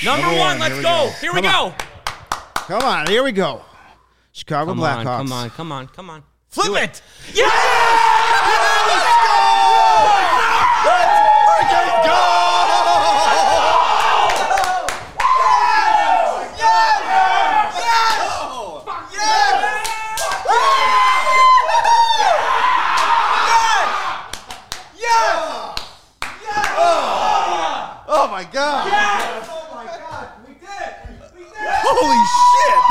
Number one, let's go. Here we go. Come on, here we go. Chicago Blackhawks. Come on. Flip it. Yeah! Let's go! Let's freaking go! Oh my God! Yes! Oh my God! We did it! Holy shit!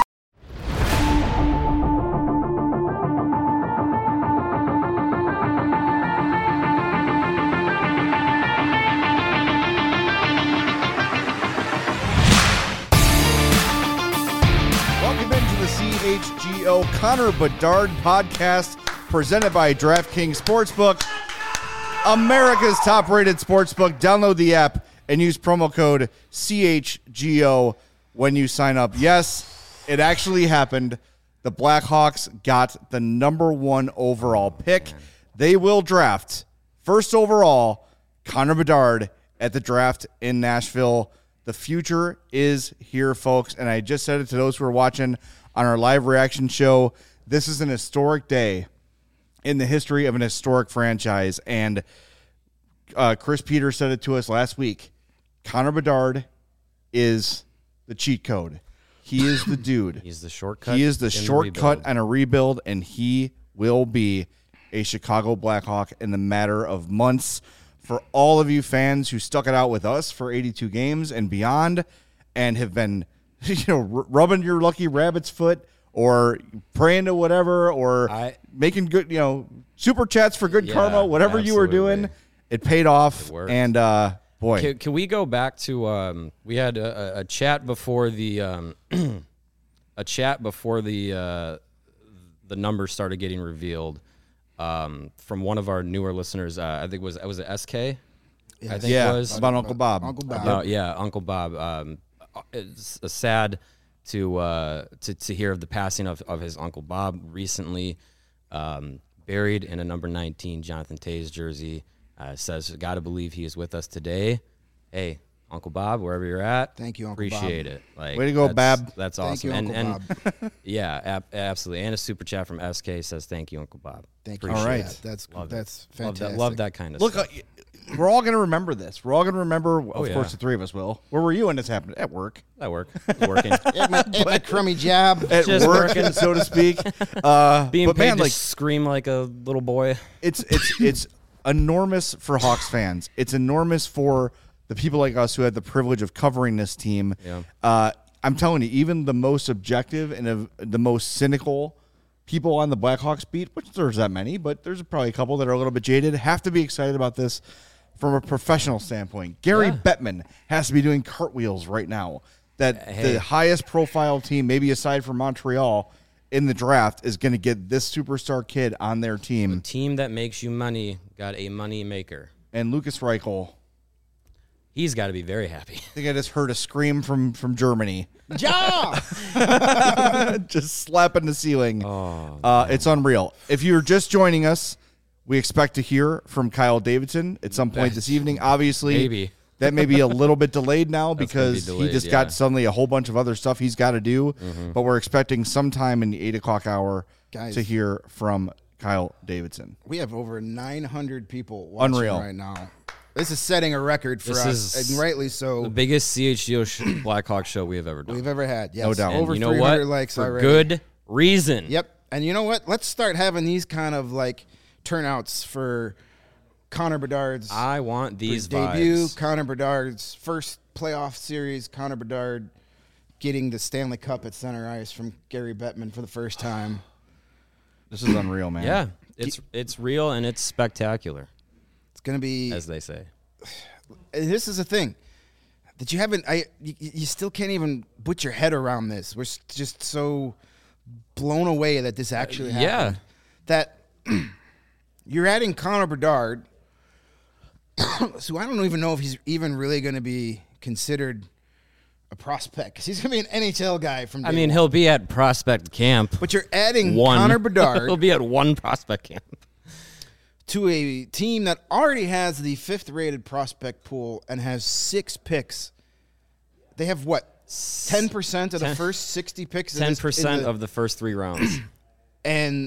Welcome into the CHGO Connor Bedard podcast presented by DraftKings Sportsbook, America's top-rated sportsbook. Download the app and use promo code CHGO when you sign up. Yes, it actually happened. The Blackhawks got the number one overall pick. They will draft first overall Connor Bedard at the draft in Nashville. The future is here, folks. And I just said it to those who are watching on our live reaction show. This is an historic day in the history of an historic franchise. And Chris Peters said it to us last week. Connor Bedard is the cheat code. He is the dude. He's the shortcut. He is the shortcut and a rebuild, and he will be a Chicago Blackhawk in the matter of months. For all of you fans who stuck it out with us for 82 games and beyond and have been, rubbing your lucky rabbit's foot or praying to whatever or making good, super chats for good karma, whatever you were doing, it paid off. And, boy. Can we go back to we had a chat before the the numbers started getting revealed from one of our newer listeners. I think was it SK? Yeah. I think it was about Uncle Bob. Uncle Bob. It's sad to hear of the passing of his Uncle Bob recently, buried in a number 19 Jonathan Toews jersey. Says, got to believe he is with us today. Hey, Uncle Bob, wherever you're at. Thank you, Uncle Bob. Appreciate it. Way to go, Bab. That's awesome. Thank you, Uncle Bob. Yeah, absolutely. And a super chat from SK says, thank you, Uncle Bob. Thank you. All right. That's fantastic. Love that kind of Look, stuff. We're all going to remember this. We're all going to remember, of course, the three of us will. Where were you when this happened? At work. At work. Working. at my crummy job. At Just work, working. so to speak. Being paid to scream like a little boy. It's enormous for Hawks fans. It's enormous for the people like us who had the privilege of covering this team. Yeah. I'm telling you, even the most objective and the most cynical people on the Blackhawks beat, which there's that many, but there's probably a couple that are a little bit jaded, have to be excited about this from a professional standpoint. Gary Bettman has to be doing cartwheels right now. The highest profile team, maybe aside from Montreal, in the draft is going to get this superstar kid on their team. A team that makes you money got a money maker. And Lucas Reichel. He's got to be very happy. I think I just heard a scream from Germany. Ja! Just slapping the ceiling. Oh, it's unreal. If you're just joining us, we expect to hear from Kyle Davidson at some point this evening. Obviously, maybe. That may be a little bit delayed now because delayed, he just got suddenly a whole bunch of other stuff he's got to do. Mm-hmm. But we're expecting sometime in the 8 o'clock hour to hear from Kyle Davidson. We have over 900 people watching right now. This is setting a record for us, and rightly so. The biggest CHGO Blackhawk show we have ever done. We've ever had, yes. No doubt. Over you know 300 what? likes for already. Good reason. Yep. And you know what? Let's start having these kind of turnouts for Connor Bedard's I want these debut, vibes. Connor Bedard's first playoff series, Connor Bedard getting the Stanley Cup at center ice from Gary Bettman for the first time. This is unreal, man. Yeah, it's real and it's spectacular. It's going to be, as they say. This is a thing that you haven't. You still can't even put your head around this. We're just so blown away that this actually happened. That you're adding Connor Bedard, so I don't even know if he's even really going to be considered a prospect because he's going to be an NHL guy from day one. He'll be at prospect camp. But you're adding Connor Bedard. He'll be at one prospect camp. To a team that already has the 5th rated prospect pool and has 6 picks they have what 10% of the first 60 picks. 10% of the first 3 rounds, and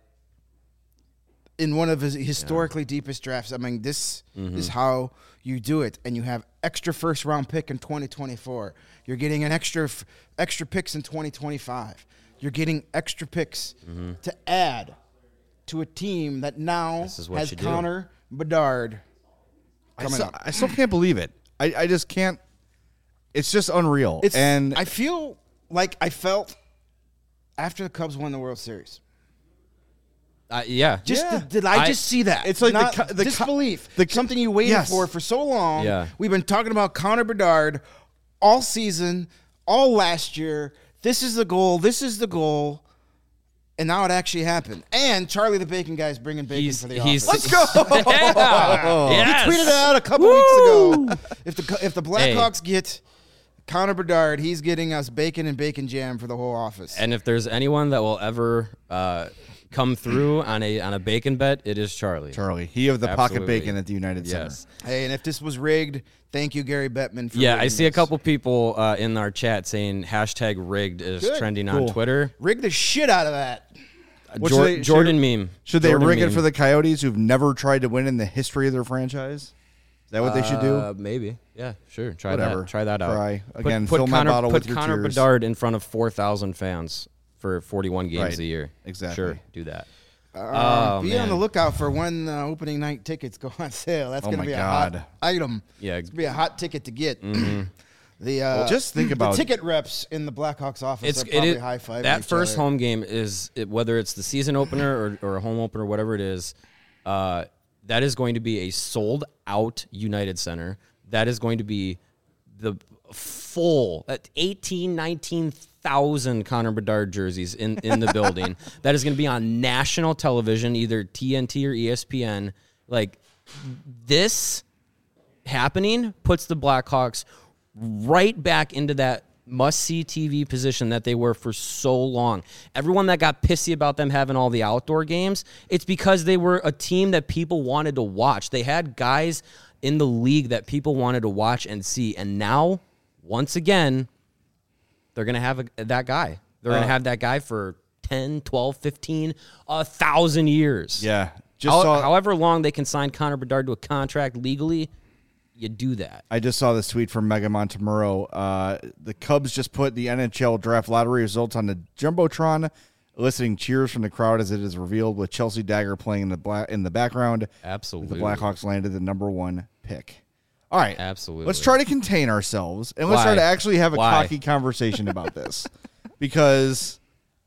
in one of his historically deepest drafts. I mean, this is how you do it, and you have extra first round pick in 2024. You're getting an extra picks in 2025. You're getting extra picks to add to a team that now has Connor Bedard coming up. I still can't believe it. I just can't. It's just unreal. And I feel like I felt after the Cubs won the World Series. Yeah. Did I just see that? It's like not the disbelief. Something you waited for so long. Yeah. We've been talking about Connor Bedard all season, all last year. This is the goal. This is the goal. And now it actually happened. And Charlie the Bacon Guy is bringing bacon for the office. Let's go. Yes. He tweeted out a couple weeks ago. If the Blackhawks get Connor Bedard, he's getting us bacon and bacon jam for the whole office. And if there's anyone that will ever come through on a bacon bet, it is Charlie. He of the pocket bacon at the United Center. Hey, and if this was rigged, thank you, Gary Bettman. For I see a couple people in our chat saying #rigged is trending on Twitter. Rig the shit out of that. Jordan meme. Should they rig it for the Coyotes who've never tried to win in the history of their franchise? Is that what they should do? Maybe. Yeah, sure. Try Whatever. that. Try that out. Try. Again, fill my bottle with your Connor tears. Bedard in front of 4,000 fans for 41 games a year. Exactly. Sure, do that. Be on the lookout for when opening night tickets go on sale. That's going to be a hot item. Yeah. It's going to be a hot ticket to get. Just think about the ticket reps in the Blackhawks office are probably high-fiving that each first other. home game is whether it's the season opener or a home opener, whatever it is. That is going to be a sold-out United Center. That is going to be the full 19,000 Connor Bedard jerseys in the building. That is going to be on national television, either TNT or ESPN. Like, this happening puts the Blackhawks right back into that must-see TV position that they were for so long. Everyone that got pissy about them having all the outdoor games, it's because they were a team that people wanted to watch. They had guys in the league that people wanted to watch and see. And now, once again, they're going to have that guy. They're going to have that guy for 10, 12, 15, 1,000 years. Yeah. However long they can sign Connor Bedard to a contract legally, you do that. I just saw this tweet from Mega Montemurro. The Cubs just put the NHL draft lottery results on the Jumbotron, eliciting cheers from the crowd as it is revealed with Chelsea Dagger playing in the background. Absolutely. The Blackhawks landed the number 1 pick. All right. Absolutely. Let's try to contain ourselves, and let's try to actually have a cocky conversation about this. Because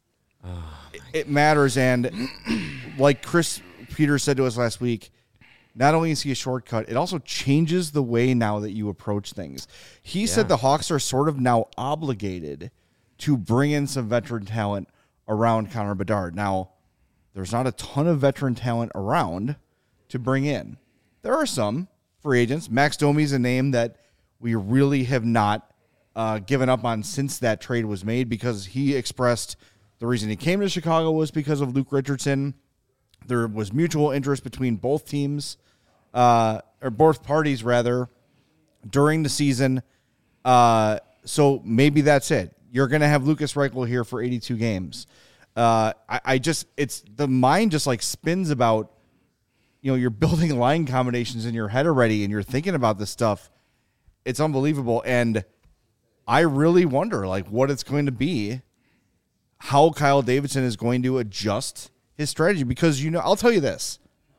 it matters, and like Chris Peters said to us last week, not only is he a shortcut, it also changes the way now that you approach things. He said the Hawks are sort of now obligated to bring in some veteran talent around Connor Bedard. Now, there's not a ton of veteran talent around to bring in. There are some free agents. Max Domi's a name that we really have not given up on since that trade was made, because he expressed the reason he came to Chicago was because of Luke Richardson. There was mutual interest between both teams, or both parties, rather, during the season. So maybe that's it. You're going to have Lucas Reichel here for 82 games. It's the mind just like spins about, you're building line combinations in your head already, and you're thinking about this stuff. It's unbelievable. And I really wonder what it's going to be, how Kyle Davidson is going to adjust his strategy, because I'll tell you this,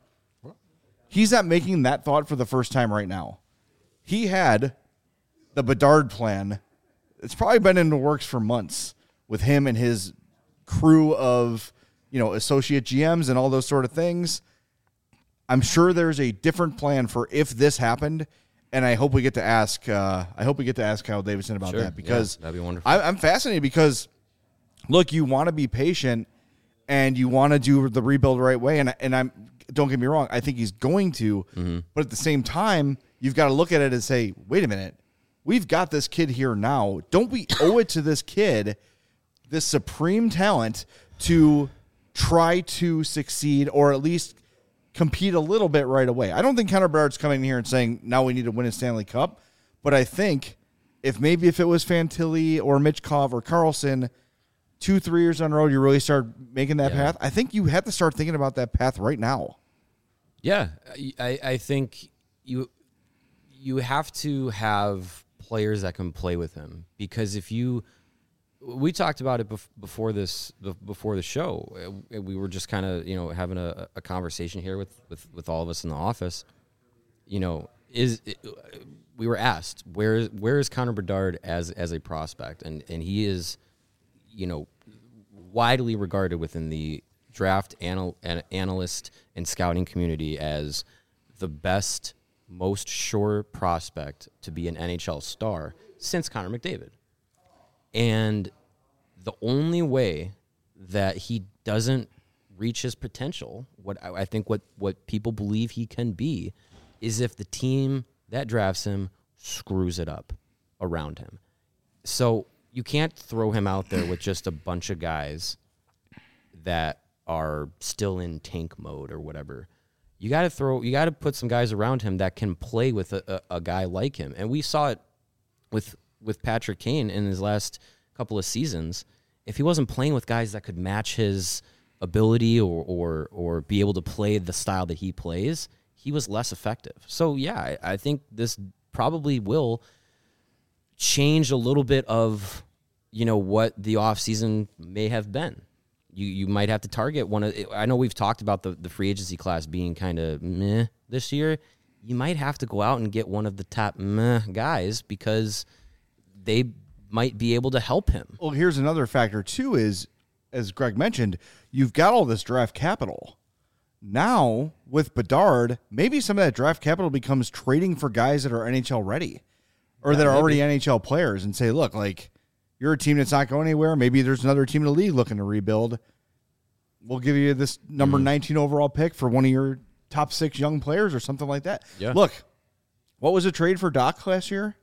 he's not making that thought for the first time right now. He had the Bedard plan. It's probably been in the works for months with him and his crew of associate GMs and all those sort of things. I'm sure there's a different plan for if this happened, and I hope we get to ask. Kyle Davidson about that, because that'd be wonderful. I'm fascinated because, look, you want to be patient. And you want to do the rebuild the right way, and I'm don't get me wrong, I think he's going to, but at the same time, you've got to look at it and say, wait a minute, we've got this kid here now. Don't we owe it to this kid, this supreme talent, to try to succeed or at least compete a little bit right away? I don't think Connor Bedard's coming in here and saying now we need to win a Stanley Cup, but I think if it was Fantilli or Mitchkov or Carlson, 2-3 years on the road, you really start making that path. I think you have to start thinking about that path right now. Yeah, I think you have to have players that can play with him, because we talked about it before the show. We were just kind of having a conversation here with all of us in the office. We were asked where is Connor Bedard as a prospect, and he is widely regarded within the draft analyst and scouting community as the best, most sure prospect to be an NHL star since Connor McDavid. And the only way that he doesn't reach his potential, what people believe he can be, is if the team that drafts him screws it up around him. So you can't throw him out there with just a bunch of guys that are still in tank mode or whatever. You got to put some guys around him that can play with a guy like him. And we saw it with Patrick Kane in his last couple of seasons. If he wasn't playing with guys that could match his ability or be able to play the style that he plays, he was less effective. So yeah, I think this probably will change a little bit of what the offseason may have been. You might have to target one of. I know we've talked about the free agency class being kind of meh this year. You might have to go out and get one of the top meh guys, because they might be able to help him. Well, here's another factor too: is, as Greg mentioned, you've got all this draft capital. Now with Bedard, maybe some of that draft capital becomes trading for guys that are NHL ready, or that are already NHL players, and say, look, like, you're a team that's not going anywhere. Maybe there's another team in the league looking to rebuild. We'll give you this number 19 overall pick for one of your top 6 young players or something like that. Yeah. Look, what was the trade for Doc last year?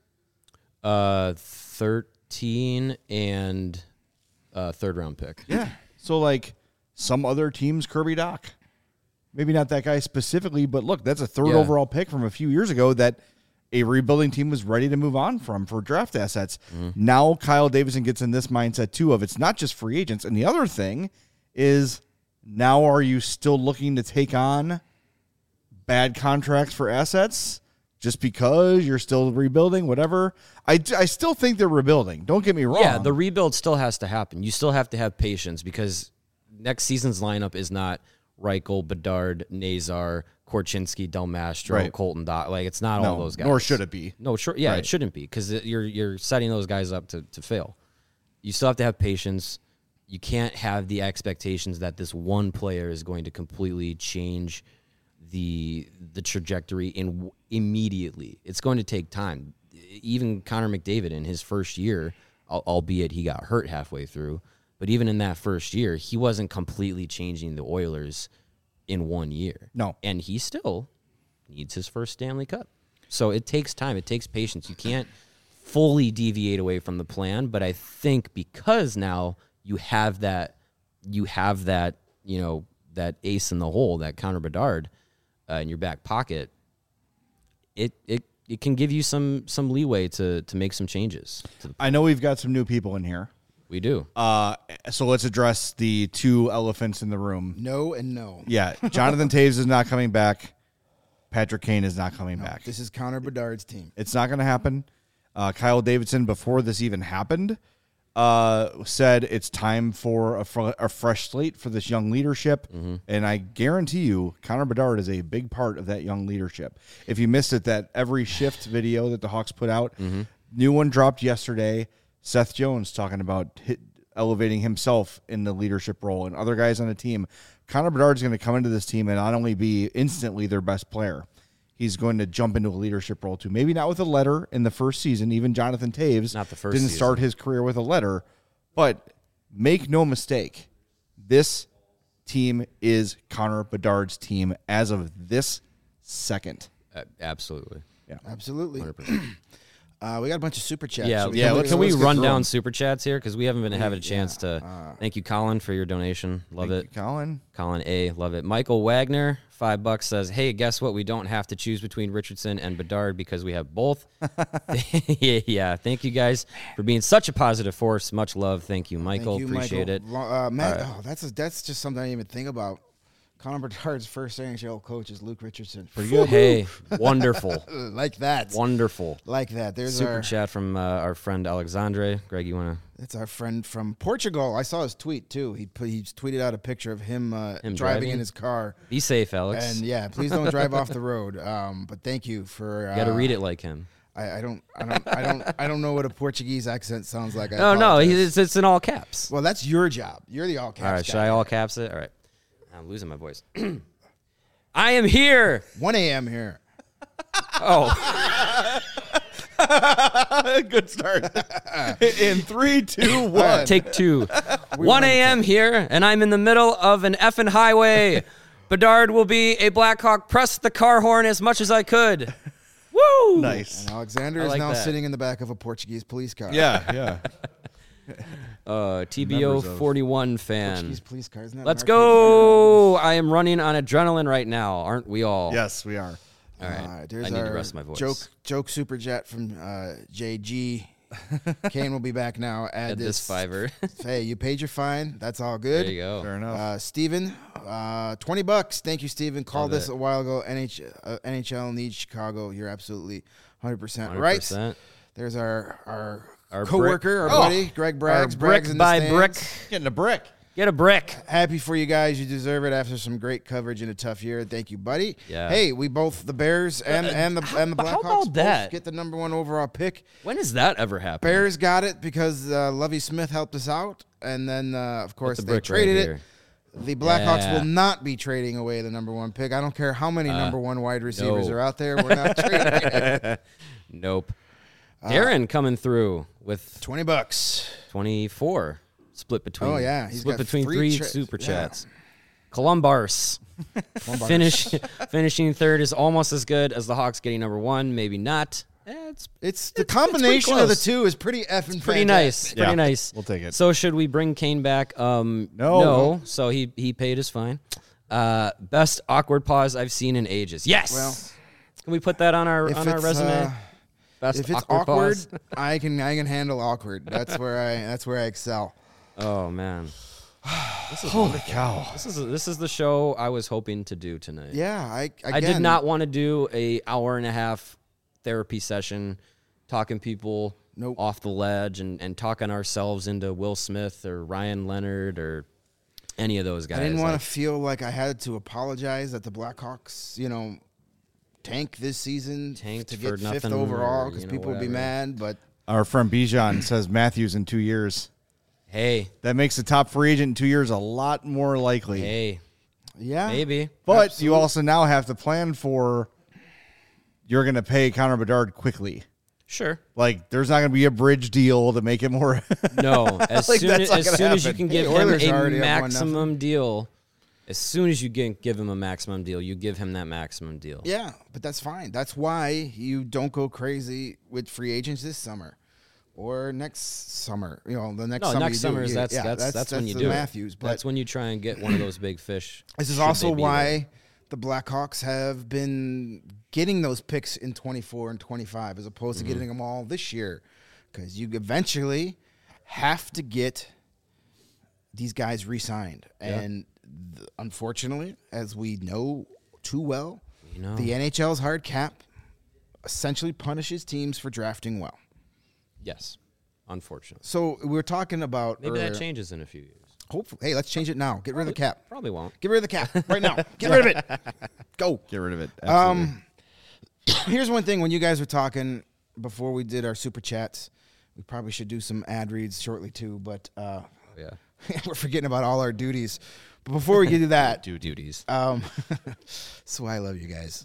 13 and third round pick. Yeah. So like some other teams, Kirby Doc. Maybe not that guy specifically, but look, that's a third overall pick from a few years ago that a rebuilding team was ready to move on from for draft assets. Now Kyle Davidson gets in this mindset too of it's not just free agents. And the other thing is, now are you still looking to take on bad contracts for assets just because you're still rebuilding, whatever? I still think they're rebuilding. Don't get me wrong. Yeah, the rebuild still has to happen. You still have to have patience, because next season's lineup is not Reichel, Bedard, Nazar, Korchinski, Del Mastro, Colton Dot. Like, it's not all those guys. Nor should it be. No, sure. Yeah, it shouldn't be, because you're setting those guys up to fail. You still have to have patience. You can't have the expectations that this one player is going to completely change the trajectory immediately. It's going to take time. Even Connor McDavid in his first year, albeit he got hurt halfway through, but even in that first year, he wasn't completely changing the Oilers in 1 year. No. And he still needs his first Stanley Cup. So it takes time. It takes patience. You can't fully deviate away from the plan, but I think because now you have that, that ace in the hole, that Connor Bedard in your back pocket, it can give you some leeway to make some changes. I know we've got some new people in here. We do. So let's address the two elephants in the room. No and no. Yeah, Jonathan Toews is not coming back. Patrick Kane is not coming back. This is Connor Bedard's team. It's not going to happen. Kyle Davidson, before this even happened, said it's time for a fresh slate for this young leadership. And I guarantee you, Connor Bedard is a big part of that young leadership. If you missed it, that every shift video that the Hawks put out, new one dropped yesterday. Seth Jones talking about elevating himself in the leadership role and other guys on the team. Connor Bedard's going to come into this team and not only be instantly their best player, he's going to jump into a leadership role too. Maybe not with a letter in the first season. Even Jonathan Toews didn't start his career with a letter. But make no mistake, this team is Connor Bedard's team as of this second. Absolutely. Yeah, absolutely. 100%. We got a bunch of super chats. Yeah, So Can we let's get run through down them. super chats here because we haven't been having a chance to. Thank you, Colin, for your donation. Love Thank it. you, Colin. Colin A, love it. Michael Wagner, $5 says, "Hey, guess what? We don't have to choose between Richardson and Bedard because we have both." Yeah, thank you guys for being such a positive force. Much love. Thank you, Michael. Thank you, Appreciate Michael. it. Matt, that's just something I didn't even think about. Connor Bedard's first NHL coach is Luke Richardson. Pretty good. Hey, wonderful, Like that. Wonderful. Like that. There's Super chat from our friend Alexandre. Greg, you wanna? That's our friend from Portugal. I saw his tweet too. He's tweeted out a picture of him, Him driving in his car. Be safe, Alex. And yeah, please don't drive off the road. But thank you for. You got to read it like him. I don't know what a Portuguese accent sounds like. No, it's in all caps. Well, that's your job. You're the all caps. All right, guy. should I all caps it? All right. I'm losing my voice. I am here. 1 a.m. here. Oh, Good start. In 3, 2, 1. take 2. 1 a.m. here, and I'm in the middle of an effing highway. Bedard will be a Blackhawk. Press the car horn as much as I could. Woo! Nice. And Alexander I is like now that. sitting in the back of a Portuguese police car. Yeah. TBO Members of 41 fan. Portuguese police car. Isn't that Let's an arcade go. I am running on adrenaline right now, aren't we all? Yes, we are. All right. There's I need to our rest my voice. Joke super jet from JG. Kane will be back now. Add This fiver. Hey, you paid your fine. That's all good. There you go. Fair enough. Steven, $20. Thank you, Steven. Called Love this it. a while ago. NHL needs Chicago. You're absolutely 100% right. 100%. There's our Our coworker, brick- our buddy, Greg Braggs. Our brick Braggs in the by stands. brick. Getting a brick. Get a brick. Happy for you guys. You deserve it after some great coverage in a tough year. Thank you, buddy. Yeah. Hey, we both, the Bears and the Blackhawks, how about both that? get the number 1 overall pick. When does that ever happen? Bears got it because Lovie Smith helped us out, and then of course the they brick traded right it. here. The Blackhawks Yeah. will not be trading away the number 1 pick. I don't care how many number 1 wide receivers no. are out there. We're not trading it. Nope. Darren coming through with $20. 24. Split between. Oh, yeah. He's Split got between 3 3 super yeah. chats. Columbars. Finishing third is almost as good as the Hawks getting number 1. Maybe not. It's the combination of the close. two is pretty effing Pretty fantastic. nice. Pretty Yeah, nice. we'll take it. So should we bring Kane back? No. No. So he paid his fine. Best awkward pause I've seen in ages. Yes. Well, can we put that on our If resume? it's, Best if it's awkward awkward, pause. I can handle awkward. That's where I excel. Oh man. Holy cow. This is the show I was hoping to do tonight. Yeah, I did not want to do a hour and a half therapy session talking people Nope. off the ledge and talking ourselves into Will Smith or Ryan Leonard or any of those guys. I didn't want Like, to feel like I had to apologize that the Blackhawks, tank this season Tanked to for get 5th nothing overall or, because you know, people would be whatever. mad. But Our friend Bijan says Matthews in 2 years. hey, That makes the top free agent in 2 years a lot more likely. hey, yeah, maybe. But you also now have to plan for you're going to pay Connor Bedard quickly. Sure. Like, there's not going to be a bridge deal to make it more. No, as Like, soon that's not gonna as you happen. can Hey, give him Oilers a already have 1-0. maximum deal, as soon as you give him a maximum deal, you give him that maximum deal. yeah, but that's fine. That's why you don't go crazy with free agents this summer or next summer. The next No, summer. next summer is that's when you the do Matthews. it. But That's when you try and get one of those big fish. this is should also they be why there. the Blackhawks have been getting those picks in 24 and 25 as opposed to getting them all this year, because you eventually have to get these guys re-signed. Yeah. And unfortunately, as we know too well, You know. the NHL's hard cap essentially punishes teams for drafting well. Yes, unfortunately. So we were talking about Maybe that earlier- changes in a few years. Hopefully, hey, let's change it now. Get rid of the cap. Probably won't. Get rid of the cap right now. Get rid of it. Go. Get rid of it. Absolutely. Here's one thing. When you guys were talking before we did our super chats, we probably should do some ad reads shortly too, but Yeah. we're forgetting about all our duties. But before we get to that, Do duties. that's why I love you guys.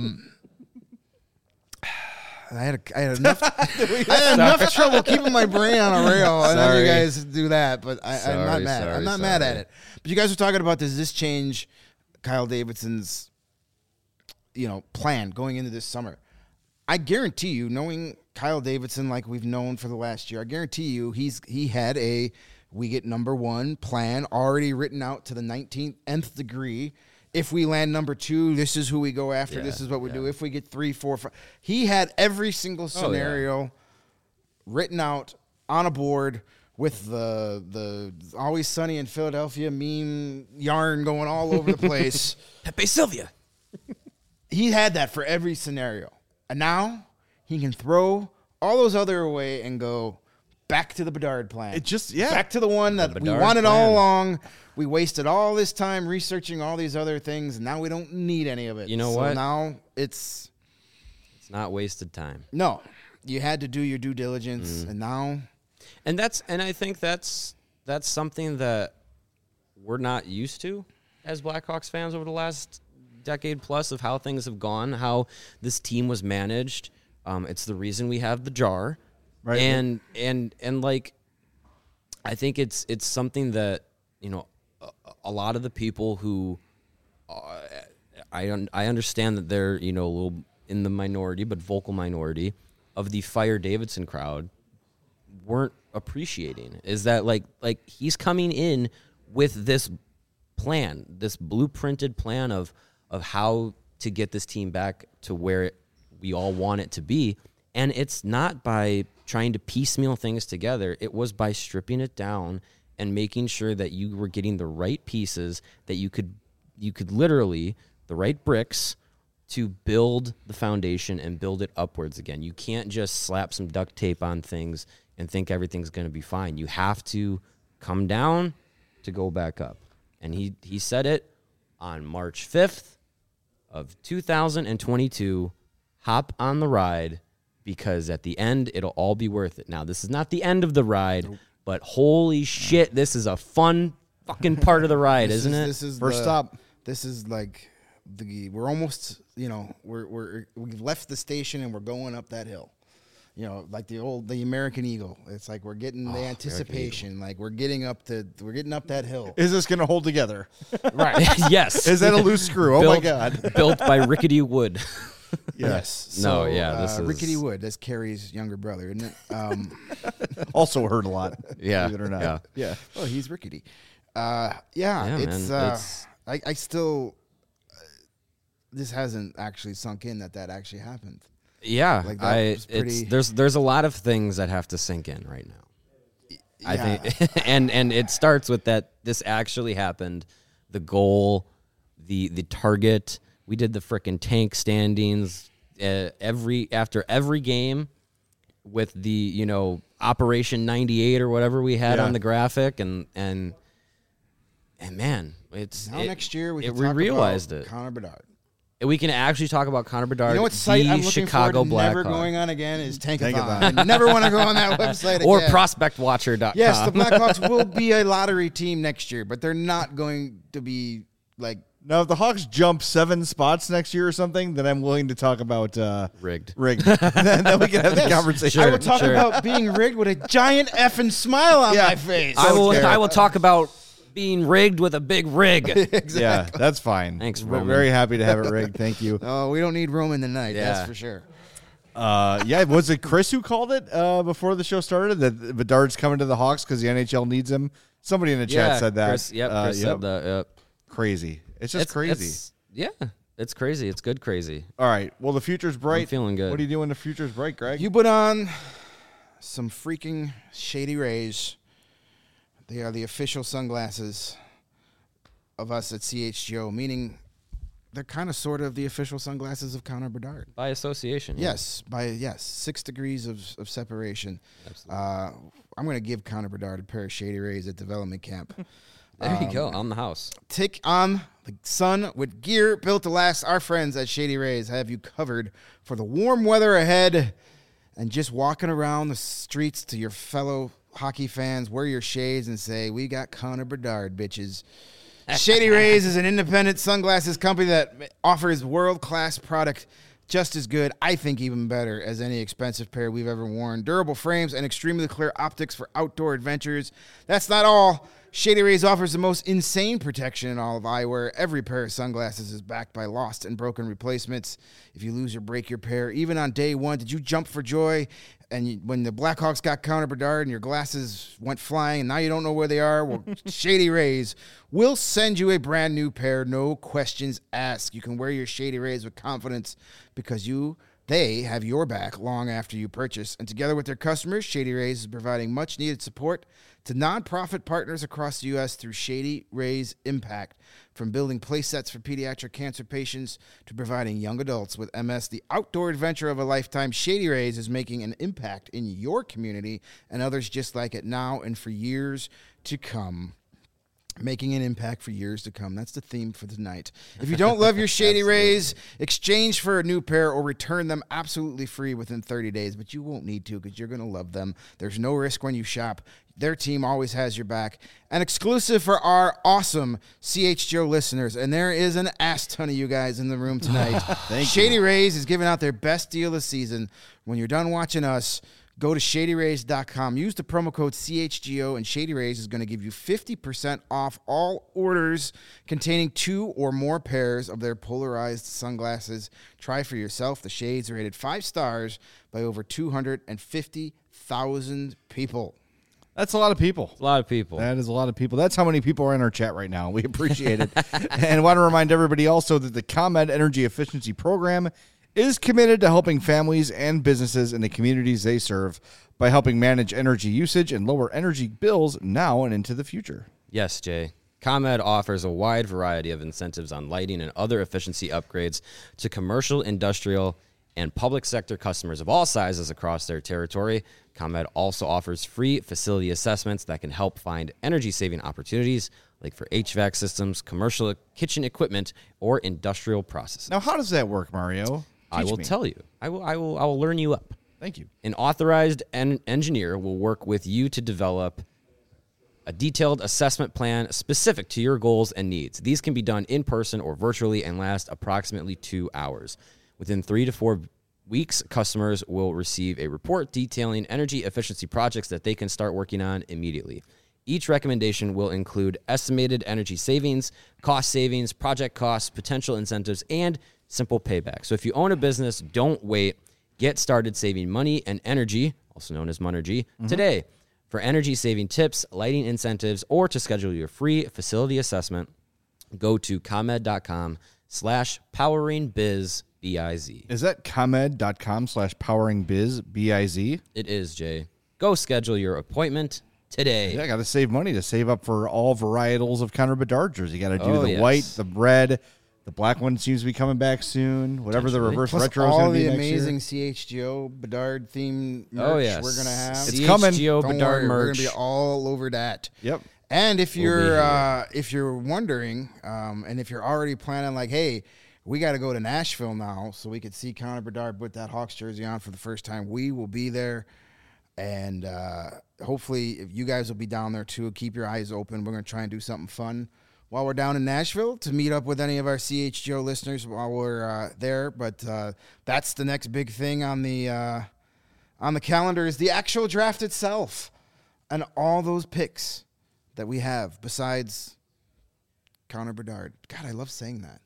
I had enough trouble keeping my brain on a rail, and then Sorry. you guys do that. But I'm not Sorry, mad. I'm sorry, not mad at sorry. it. But you guys were talking about, does this change Kyle Davidson's plan going into this summer? I guarantee you, knowing Kyle Davidson, like we've known for the last year, I guarantee you he had we get number 1 plan already written out to the 19th degree. If we land number 2, this is who we go after. This is what we do. If we get 3, 4, 5. He had every single scenario written out on a board with the Always Sunny in Philadelphia meme yarn going all over the place. Pepe Sylvia. He had that for every scenario. And now he can throw all those other away and go back to the Bedard plan. It just, back to the one that we wanted all along. We wasted all this time researching all these other things, and now we don't need any of it. You know what? Now it's not wasted time. No. You had to do your due diligence, and now... And I think that's something that we're not used to as Blackhawks fans over the last decade plus of how things have gone, how this team was managed. It's the reason we have the jar, right? And like, I think it's something that, you know, a lot of the people who I understand that they're, you know, a little in the minority, but vocal minority of the Fire Davidson crowd weren't appreciating is that like he's coming in with this plan, this blueprinted plan of how to get this team back to where we all want it to be. And it's not by trying to piecemeal things together. It was by stripping it down and making sure that you were getting the right pieces, that you could literally, the right bricks to build the foundation and build it upwards again. You can't just slap some duct tape on things and think everything's going to be fine. You have to come down to go back up. And he said it on March 5th of 2022, hop on the ride, because at the end, it'll all be worth it. Now, this is not the end of the ride, but holy shit, this is a fun fucking part of the ride, isn't it? This is First stop. This is like we're almost, you know, we've left the station and we're going up that hill. You know, like the American Eagle. It's like we're getting the anticipation. Like we're getting up that hill. Is this going to hold together? Right. Yes. Is that a loose screw? Oh my God. Built by Rickety Wood. Yes. So, this is Rickety Wood. That's Carrie's younger brother, isn't it? Also heard a lot. Yeah. Believe it or not. Yeah. Oh, he's rickety. Man, I still. This hasn't actually sunk in that actually happened. Yeah, Like that was pretty... there's a lot of things that have to sink in right now. Yeah. I think, and it starts with that this actually happened, the goal, the target. We did the frickin' tank standings after every game with the, you know, Operation 98 or whatever we had on the graphic, and man, next year we realized it. Connor Bedard. We can actually talk about Connor Bedard. You know what site I'm looking Chicago forward to never Blackhawks. going on again is Tankathon. I never want to go on that website again. Or ProspectWatcher.com. Yes, the Blackhawks will be a lottery team next year, but they're not going to be like... Now, if the Hawks jump 7 spots next year or something, then I'm willing to talk about... rigged. Then we can have the conversation. I will talk about being rigged with a giant effing smile on my face. I will talk about being rigged with a big rig. Exactly. Yeah, that's fine. Thanks, We're Roman. very happy to have it rigged. Thank you. Oh, we don't need Roman tonight, Yeah. that's for sure. Yeah, was it Chris who called it before the show started that Bedard's coming to the Hawks because the NHL needs him? Somebody in the chat said that. Chris, Chris said that. Yep. Crazy. It's just crazy. It's crazy. It's good crazy. All right. Well, the future's bright. I'm feeling good. What are you doing? The future's bright, Greg. You put on some freaking Shady Rays. They are the official sunglasses of us at CHGO, meaning they're kind of sort of the official sunglasses of Connor Bedard. By association. Yes, 6 degrees of separation. Absolutely. I'm going to give Connor Bedard a pair of Shady Rays at development camp. There you go. On the house. Take on the sun with gear built to last. Our friends at Shady Rays have you covered for the warm weather ahead. And just walking around the streets to your fellow hockey fans, wear your shades and say, we got Connor Bedard, bitches. Shady Rays is an independent sunglasses company that offers world-class product just as good, I think even better, as any expensive pair we've ever worn. Durable frames and extremely clear optics for outdoor adventures. That's not all. Shady Rays offers the most insane protection in all of eyewear. Every pair of sunglasses is backed by lost and broken replacements. If you lose or break your pair, even on day one, did you jump for joy? And when the Blackhawks got Connor Bedard and your glasses went flying and now you don't know where they are, well, Shady Rays will send you a brand new pair, no questions asked. You can wear your Shady Rays with confidence because they have your back long after you purchase. And together with their customers, Shady Rays is providing much-needed support to nonprofit partners across the U.S. through Shady Rays Impact. From building play sets for pediatric cancer patients to providing young adults with MS the outdoor adventure of a lifetime, Shady Rays is making an impact in your community and others just like it now and for years to come. Making an impact for years to come. That's the theme for tonight. If you don't love your Shady Rays, exchange for a new pair or return them absolutely free within 30 days. But you won't need to because you're going to love them. There's no risk when you shop. Their team always has your back. An exclusive for our awesome CHGO listeners. And there is an ass ton of you guys in the room tonight. Shady Rays is giving out their best deal this season. When you're done watching us, go to ShadyRays.com. Use the promo code CHGO, and Shady Rays is going to give you 50% off all orders containing 2 or more pairs of their polarized sunglasses. Try for yourself. The shades are rated 5 stars by over 250,000 people. That's a lot of people. It's a lot of people. That is a lot of people. That's how many people are in our chat right now. We appreciate it. And want to remind everybody also that the ComEd Energy Efficiency Program is committed to helping families and businesses in the communities they serve by helping manage energy usage and lower energy bills now and into the future. Yes, Jay. ComEd offers a wide variety of incentives on lighting and other efficiency upgrades to commercial, industrial, and public sector customers of all sizes across their territory. ComEd also offers free facility assessments that can help find energy-saving opportunities like for HVAC systems, commercial kitchen equipment, or industrial processes. Now, how does that work, Mario? I will tell you. I will learn you up. Thank you. An authorized engineer will work with you to develop a detailed assessment plan specific to your goals and needs. These can be done in person or virtually and last approximately 2 hours. Within 3 to 4 weeks, customers will receive a report detailing energy efficiency projects that they can start working on immediately. Each recommendation will include estimated energy savings, cost savings, project costs, potential incentives, and simple payback. So if you own a business, don't wait. Get started saving money and energy, also known as Monergy, today. For energy-saving tips, lighting incentives, or to schedule your free facility assessment, go to ComEd.com/poweringbiz, B-I-Z. Is that ComEd.com/poweringbiz, B-I-Z? It is, Jay. Go schedule your appointment today. Yeah, I got to save money to save up for all varietals of Connor Bedard jerseys. You got to do the white, the red. The black one seems to be coming back soon. Whatever the reverse retro is going to be next year. All the amazing CHGO Bedard themed merch we're going to have. It's coming. CHGO Bedard merch. We're going to be all over that. Yep. And if you're wondering, and if you're already planning like, hey, we got to go to Nashville now so we could see Connor Bedard put that Hawks jersey on for the first time, we will be there. And hopefully if you guys will be down there too. Keep your eyes open. We're going to try and do something fun while we're down in Nashville to meet up with any of our CHGO listeners while we're there. But that's the next big thing on the calendar is the actual draft itself and all those picks that we have besides Connor Bedard. God, I love saying that.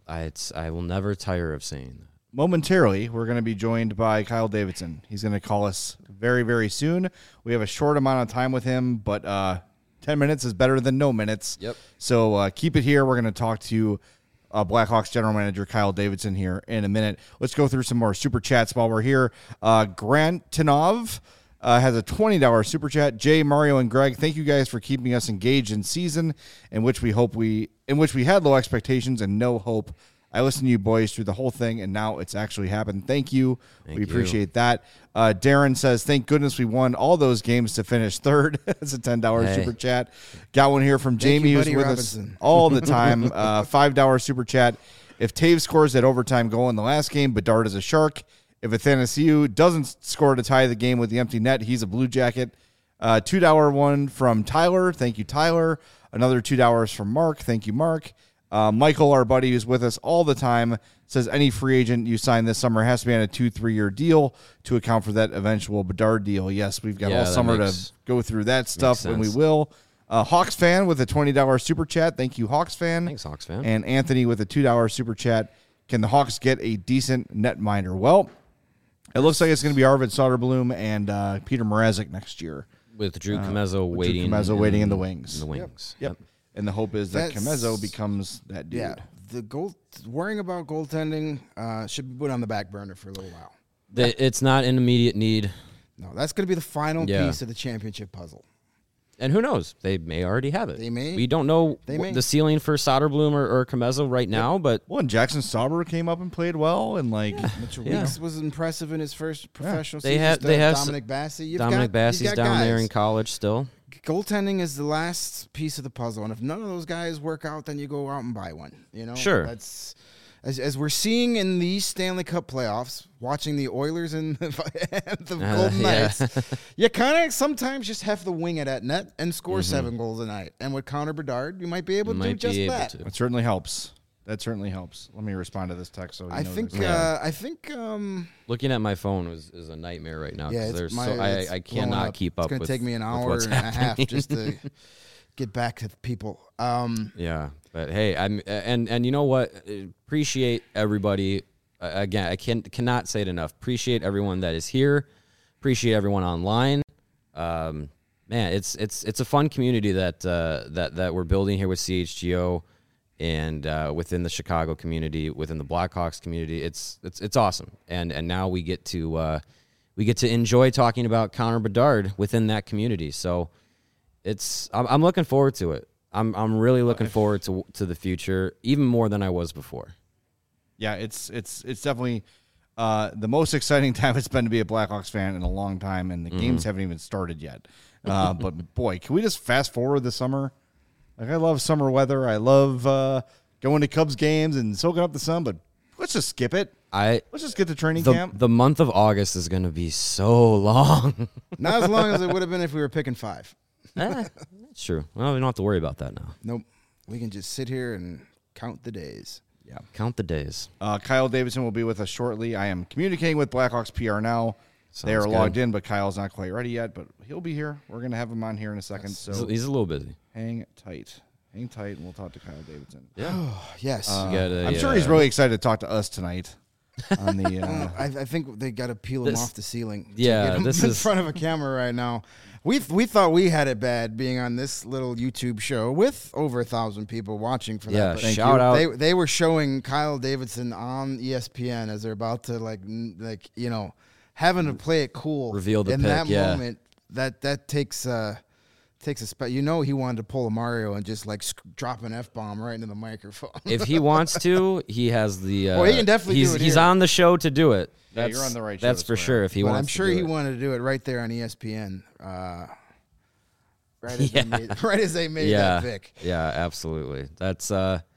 I will never tire of saying that. Momentarily, we're going to be joined by Kyle Davidson. He's going to call us very, very soon. We have a short amount of time with him, but 10 minutes is better than no minutes. Yep. So keep it here. We're going to talk to Blackhawks general manager Kyle Davidson here in a minute. Let's go through some more super chats while we're here. Grant Tinov has a $20 super chat. Jay, Mario, and Greg, thank you guys for keeping us engaged in season in which we had low expectations and no hope. I listened to you boys through the whole thing, and now it's actually happened. Thank you. We appreciate that. Darren says, thank goodness we won all those games to finish third. That's a $10 super chat. Got one here from Jamie, who's with us all the time. $5 super chat. If Taves scores that overtime goal in the last game, Bedard is a Shark. If Athanasiou doesn't score to tie the game with the empty net, he's a Blue Jacket. $2 one from Tyler. Thank you, Tyler. Another $2 from Mark. Thank you, Mark. Michael, our buddy who's with us all the time, says any free agent you sign this summer has to be on a 2-3 year deal to account for that eventual Bedard deal. Yes, we've got all summer to go through that stuff, and we will. Hawks fan with a $20 super chat. Thank you, Hawks fan. Thanks, Hawks fan. And Anthony with a $2 super chat. Can the Hawks get a decent netminder? Well, it looks like it's going to be Arvid Soderblom and Peter Mrazek next year. With Drew Comezzo waiting. Waiting in the wings. In the wings. Yep. And the hope is that Comezzo becomes that dude. Yeah. Worrying about goaltending should be put on the back burner for a little while. It's not an immediate need. No, that's going to be the final piece of the championship puzzle. And who knows? They may already have it. They may. We don't know the ceiling for Soderblom or Comezzo right now, but... Well, and Jackson Sauber came up and played well, and Mitchell Weeks was impressive in his first professional season. They have Dominic Bassey. Dominic Bassey's down there in college still. Goaltending is the last piece of the puzzle, and if none of those guys work out, then you go out and buy one. Sure. That's as we're seeing in these Stanley Cup playoffs, watching the Oilers and the Golden Knights, you kind of sometimes just have to wing it at net and score 7 goals a night. And with Connor Bedard, you might be able to do just that. It certainly helps. That certainly helps. Let me respond to this text. So I think looking at my phone is a nightmare right now. Yeah, I cannot keep up. It's going to take me an hour and a half just to get back to the people. Yeah, but hey, and you know what? Appreciate everybody. Again, I cannot say it enough. Appreciate everyone that is here. Appreciate everyone online. Man, it's a fun community that we're building here with CHGO. And within the Chicago community, within the Blackhawks community, it's awesome. And now we get to enjoy talking about Connor Bedard within that community. So I'm looking forward to it. I'm really looking forward to the future, even more than I was before. Yeah, it's definitely the most exciting time it's been to be a Blackhawks fan in a long time, and the games haven't even started yet. But boy, can we just fast forward the summer? Like, I love summer weather. I love going to Cubs games and soaking up the sun, but let's just skip it. Let's just get to training camp. The month of August is going to be so long. Not as long as it would have been if we were picking 5. That's true. Well, we don't have to worry about that now. Nope. We can just sit here and count the days. Yeah. Count the days. Kyle Davidson will be with us shortly. I am communicating with Blackhawks PR now. They are logged in, but Kyle's not quite ready yet, but he'll be here. We're going to have him on here in a second. So he's a little busy. Hang tight, and we'll talk to Kyle Davidson. Yeah. Yes. I'm sure he's really excited to talk to us tonight. On the, I think they got to peel him off the ceiling. Yeah, this is in front of a camera right now. We thought we had it bad being on this little YouTube show with over 1,000 people watching for that. Yeah, shout out. They were showing Kyle Davidson on ESPN as they're about to having to play it cool. Reveal the in pick, that moment. That takes a he wanted to pull a Mario and just drop an F-bomb right into the microphone. If he wants to, he has the. He can definitely do it. He's on the show to do it. Yeah, you're on the right show. That's for sure. If he wants, I'm sure he wanted to do it right there on ESPN. Right as they made that pick. Yeah, absolutely. That's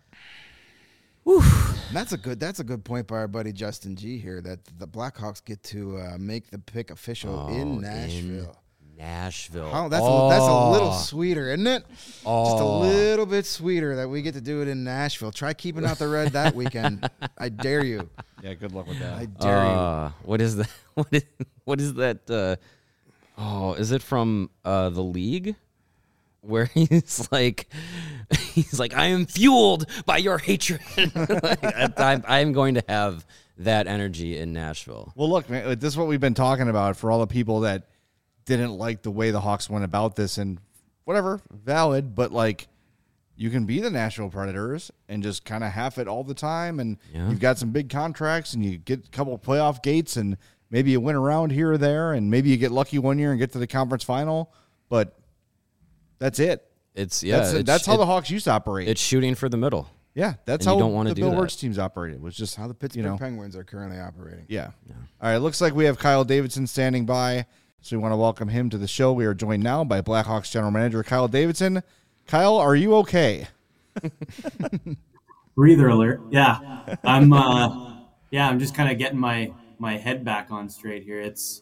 That's a good point by our buddy Justin G here, that the Blackhawks get to make the pick official in Nashville. Oh, that's a little sweeter, isn't it? Just a little bit sweeter that we get to do it in Nashville. Try keeping out the red that weekend. I dare you. Yeah, good luck with that. I dare you. What is that? What is that? Is it from the league? Where he's like, I am fueled by your hatred. I'm going to have that energy in Nashville. Well, look, man, this is what we've been talking about for all the people that didn't like the way the Hawks went about this, and whatever, valid, but you can be the Nashville Predators and just kind of half it all the time, and you've got some big contracts, and you get a couple of playoff gates, and maybe you win around here or there, and maybe you get lucky one year and get to the conference final, but that's it. That's how the Hawks used to operate. It's shooting for the middle. Yeah, that's how the Bill Wirtz teams operated. It was just how the Pittsburgh Penguins are currently operating. Yeah. All right, looks like we have Kyle Davidson standing by, so we want to welcome him to the show. We are joined now by Blackhawks general manager Kyle Davidson. Kyle, are you okay? Breather alert. Yeah, I'm. I'm just kind of getting my head back on straight here. It's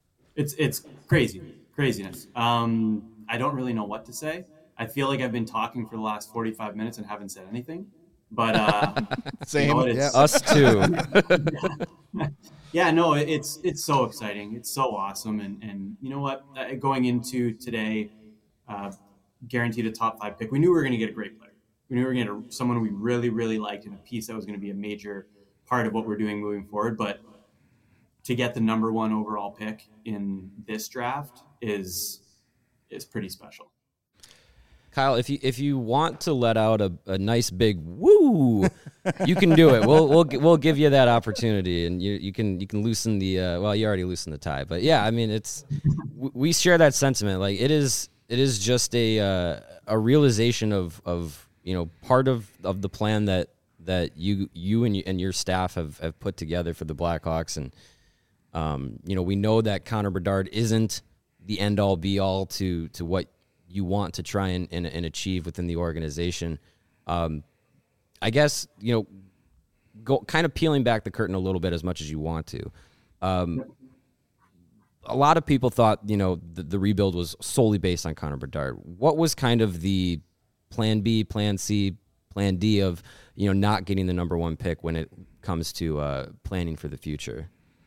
craziness. I don't really know what to say. I feel like I've been talking for the last 45 minutes and haven't said anything. But same, us too. Yeah, no, it's so exciting. It's so awesome, and you know what? Going into today, guaranteed a top 5 pick. We knew we were going to get a great player. We knew we were going to get someone we really, really liked and a piece that was going to be a major part of what we're doing moving forward. But to get the number 1 overall pick in this draft is pretty special. Kyle, if you want to let out a nice big woo, you can do it. We'll give you that opportunity, and you can loosen the well, you already loosened the tie, but yeah, I mean we share that sentiment. Like it is just a realization of part of the plan that you and your staff have put together for the Blackhawks, and we know that Connor Bedard isn't the end all be all to what you want to try and achieve within the organization. I guess, go kind of peeling back the curtain a little bit as much as you want to. A lot of people thought, the rebuild was solely based on Connor Bedard. What was kind of the plan B, plan C, plan D of, not getting the number 1 pick when it comes to planning for the future?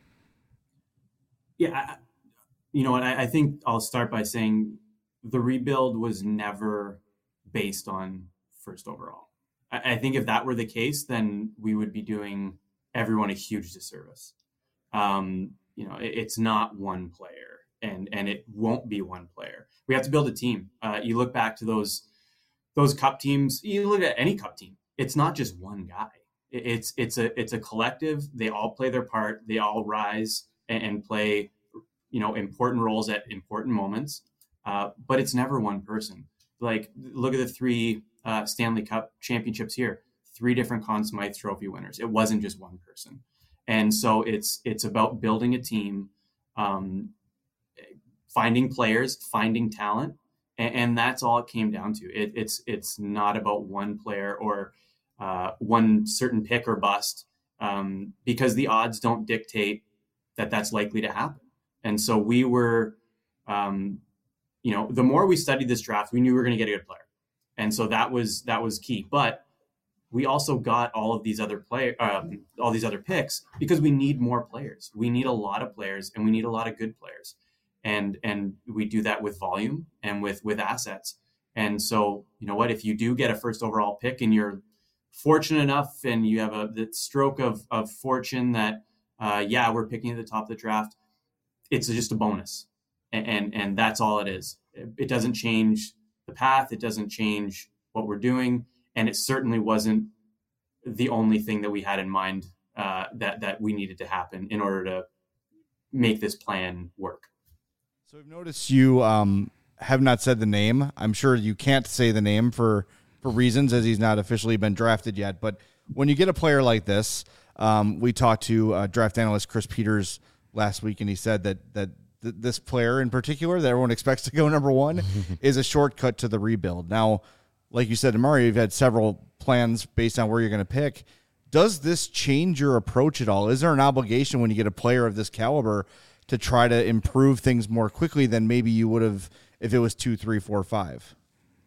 Yeah, I think I'll start by saying the rebuild was never based on first overall. I think if that were the case, then we would be doing everyone a huge disservice. It's not one player, and it won't be one player. We have to build a team. You look back to those cup teams. You look at any cup team. It's not just one guy. It's a collective. They all play their part. They all rise and play, important roles at important moments. But it's never one person. Like, look at the 3 Stanley Cup championships here, 3 different Conn Smythe Trophy winners. It wasn't just one person. And so it's about building a team, finding players, finding talent. And that's all it came down to. It's not about one player or one certain pick or bust, because the odds don't dictate that that's likely to happen. And so we were, the more we studied this draft, we knew we were going to get a good player. And so that was key. But we also got all of these other picks because we need more players. We need a lot of players, and we need a lot of good players. And we do that with volume and with assets. And so, if you do get a first overall pick and you're fortunate enough and you have the stroke of fortune that, we're picking at the top of the draft, it's just a bonus. And that's all it is. It doesn't change the path. It doesn't change what we're doing. And it certainly wasn't the only thing that we had in mind that we needed to happen in order to make this plan work. So I've noticed you have not said the name. I'm sure you can't say the name for reasons, as he's not officially been drafted yet. But when you get a player like this, we talked to draft analyst Chris Peters last week, and he said that this player in particular that everyone expects to go number 1 is a shortcut to the rebuild. Now, like you said, Mario, you've had several plans based on where you're going to pick. Does this change your approach at all? Is there an obligation when you get a player of this caliber to try to improve things more quickly than maybe you would have if it was 2, 3, 4, 5?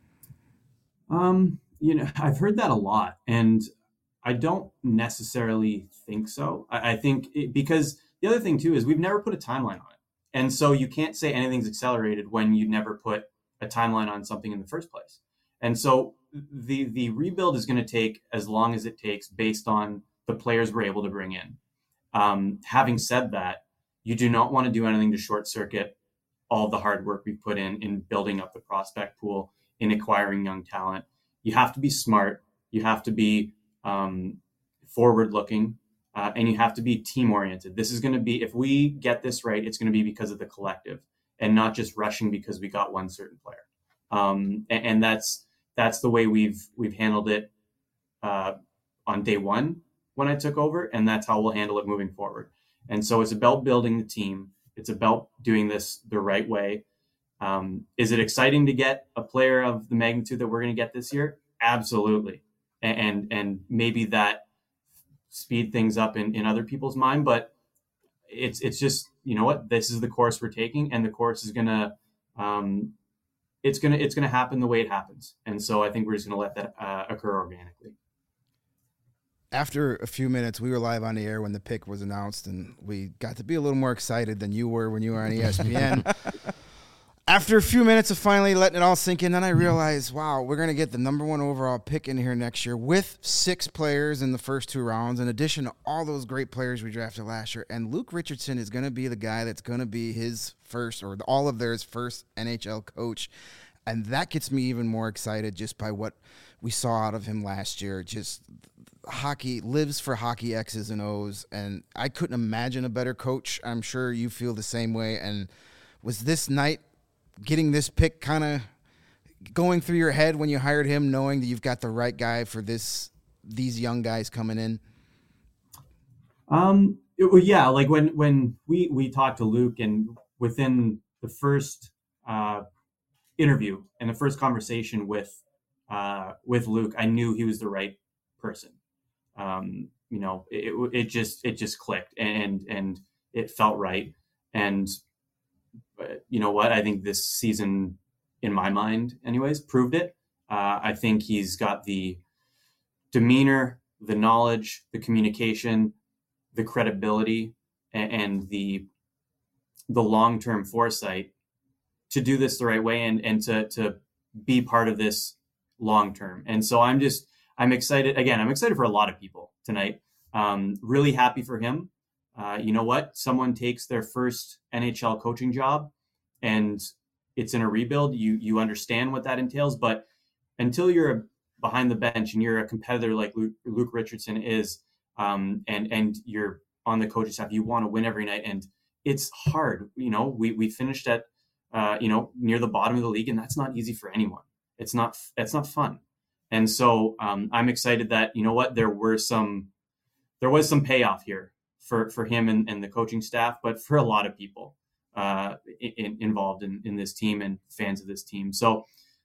I've heard that a lot, and I don't necessarily think so. I think because the other thing too is we've never put a timeline on it. And so you can't say anything's accelerated when you never put a timeline on something in the first place. And so the rebuild is going to take as long as it takes based on the players we're able to bring in. Having said that, you do not want to do anything to short circuit all the hard work we've put in building up the prospect pool, in acquiring young talent. You have to be smart. You have to be forward looking. And you have to be team oriented. This is going to be, if we get this right, it's going to be because of the collective and not just rushing because we got one certain player. And that's the way we've handled it on day 1 when I took over, and that's how we'll handle it moving forward. And so it's about building the team. It's about doing this the right way. Is it exciting to get a player of the magnitude that we're going to get this year? Absolutely. And maybe that speed things up in other people's mind, but it's just, this is the course we're taking, and the course is gonna it's gonna happen the way it happens. And so I think we're just gonna let that occur organically. After a few minutes, we were live on the air when the pick was announced, and we got to be a little more excited than you were when you were on ESPN. After a few minutes of finally letting it all sink in, then I realized, wow, we're going to get the number 1 overall pick in here next year with 6 players in the first 2 rounds, in addition to all those great players we drafted last year. And Luke Richardson is going to be the guy that's going to be his first, or all of theirs first NHL coach. And that gets me even more excited just by what we saw out of him last year. Just hockey, lives for hockey X's and O's. And I couldn't imagine a better coach. I'm sure you feel the same way. And was this night, getting this pick kind of going through your head when you hired him, knowing that you've got the right guy for these young guys coming in? Yeah, like when we talked to Luke, and within the first interview and the first conversation with Luke, I knew he was the right person. It just clicked, and it felt right. And you know what? I think this season, in my mind anyways, proved it. I think he's got the demeanor, the knowledge, the communication, the credibility, and the long-term foresight to do this the right way and to be part of this long-term. And so I'm excited. Again, I'm excited for a lot of people tonight. Really happy for him. You know what? Someone takes their first NHL coaching job and it's in a rebuild. You understand what that entails, but until you're behind the bench and you're a competitor like Luke Richardson is, and you're on the coaching staff, you want to win every night, and it's hard. We finished at near the bottom of the league, and that's not easy for anyone. It's not fun. And so I'm excited that, you know what, there was some payoff here for him and the coaching staff, but for a lot of people involved in this team and fans of this team. So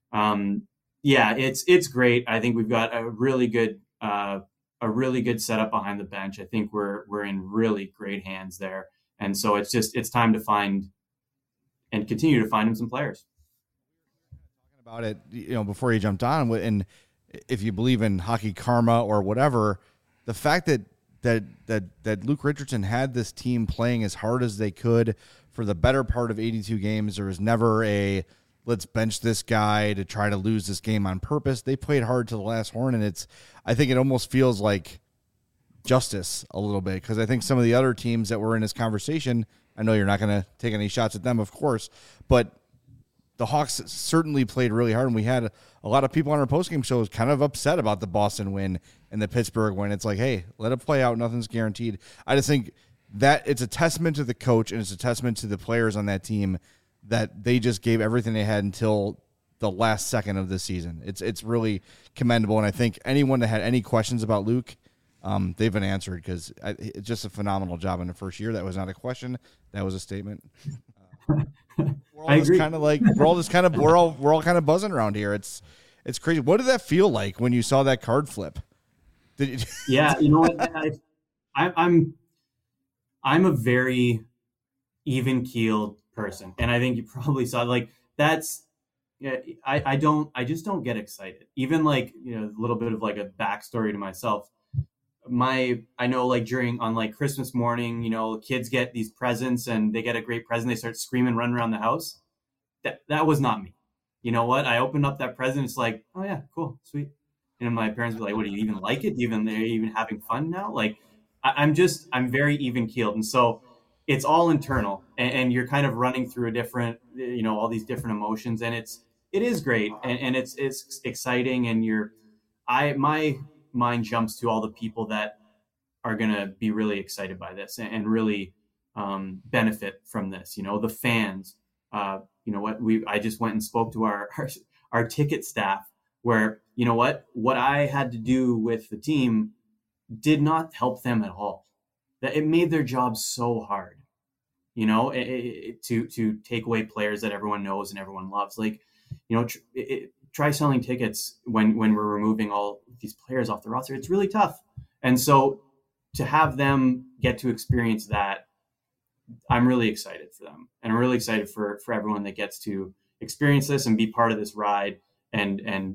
it's great. I think we've got a really good setup behind the bench. I think we're in really great hands there. And so it's time to find and continue to find him some players. Talking about it, before you jumped on, and if you believe in hockey karma or whatever, the fact that Luke Richardson had this team playing as hard as they could for the better part of 82 games. There was never a let's bench this guy to try to lose this game on purpose. They played hard to the last horn, and I think it almost feels like justice a little bit, because I think some of the other teams that were in this conversation, I know you're not going to take any shots at them, of course, but the Hawks certainly played really hard, and we had a lot of people on our postgame shows kind of upset about the Boston win and the Pittsburgh win. It's like, hey, let it play out. Nothing's guaranteed. I just think that it's a testament to the coach and it's a testament to the players on that team that they just gave everything they had until the last second of the season. It's really commendable, and I think anyone that had any questions about Luke, they've been answered, because it's just a phenomenal job in the first year. That was not a question. That was a statement. We're all just kind of like we're all kind of buzzing around here. It's crazy. What did that feel like when you saw that card flip? Yeah, you know what? I'm a very even keeled person, and I think you probably saw that's. Yeah, I just don't get excited. Even a little bit of a backstory to myself. I know on Christmas morning, kids get these presents and they get a great present. They start screaming, running around the house. That was not me. You know what? I opened up that present. It's like, oh yeah, cool, sweet. And my parents were like, what, do you even like it? They're even having fun now? I'm very even keeled. And so it's all internal, and you're kind of running through a different, all these different emotions, and it is great. And it's exciting. And my mind jumps to all the people that are going to be really excited by this and really benefit from this. The fans, I just went and spoke to our ticket staff, where, what I had to do with the team did not help them at all. That it made their job so hard, to take away players that everyone knows and everyone loves. Try selling tickets when we're removing all these players off the roster. It's really tough. And so to have them get to experience that, I'm really excited for them. And I'm really excited for everyone that gets to experience this and be part of this ride and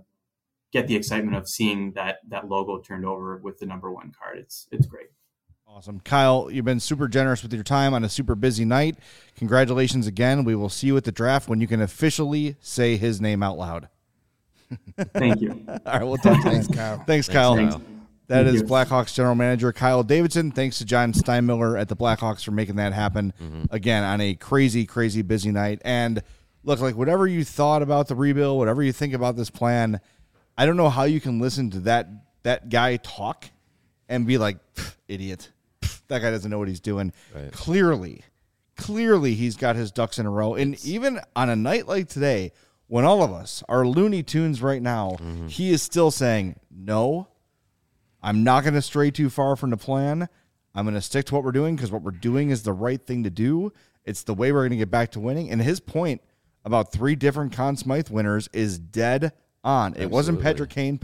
get the excitement of seeing that logo turned over with the number 1 card. It's great. Awesome. Kyle, you've been super generous with your time on a super busy night. Congratulations again. We will see you at the draft when you can officially say his name out loud. Thank you. All right, we'll talk to you. Thanks, Kyle. Thanks, Kyle. Thanks. That Thank is you. Blackhawks general manager Kyle Davidson. Thanks to John Steinmiller at the Blackhawks for making that happen again on a crazy, crazy busy night. And look, like whatever you thought about the rebuild, whatever you think about this plan, I don't know how you can listen to that guy talk and be like, idiot. That guy doesn't know what he's doing. Right. Clearly, he's got his ducks in a row. And even on a night like today, when all of us are Looney Tunes right now, he is still saying, no, I'm not going to stray too far from the plan. I'm going to stick to what we're doing because what we're doing is the right thing to do. It's the way we're going to get back to winning. And his point about 3 different Conn Smythe winners is dead on. It wasn't Patrick Kane.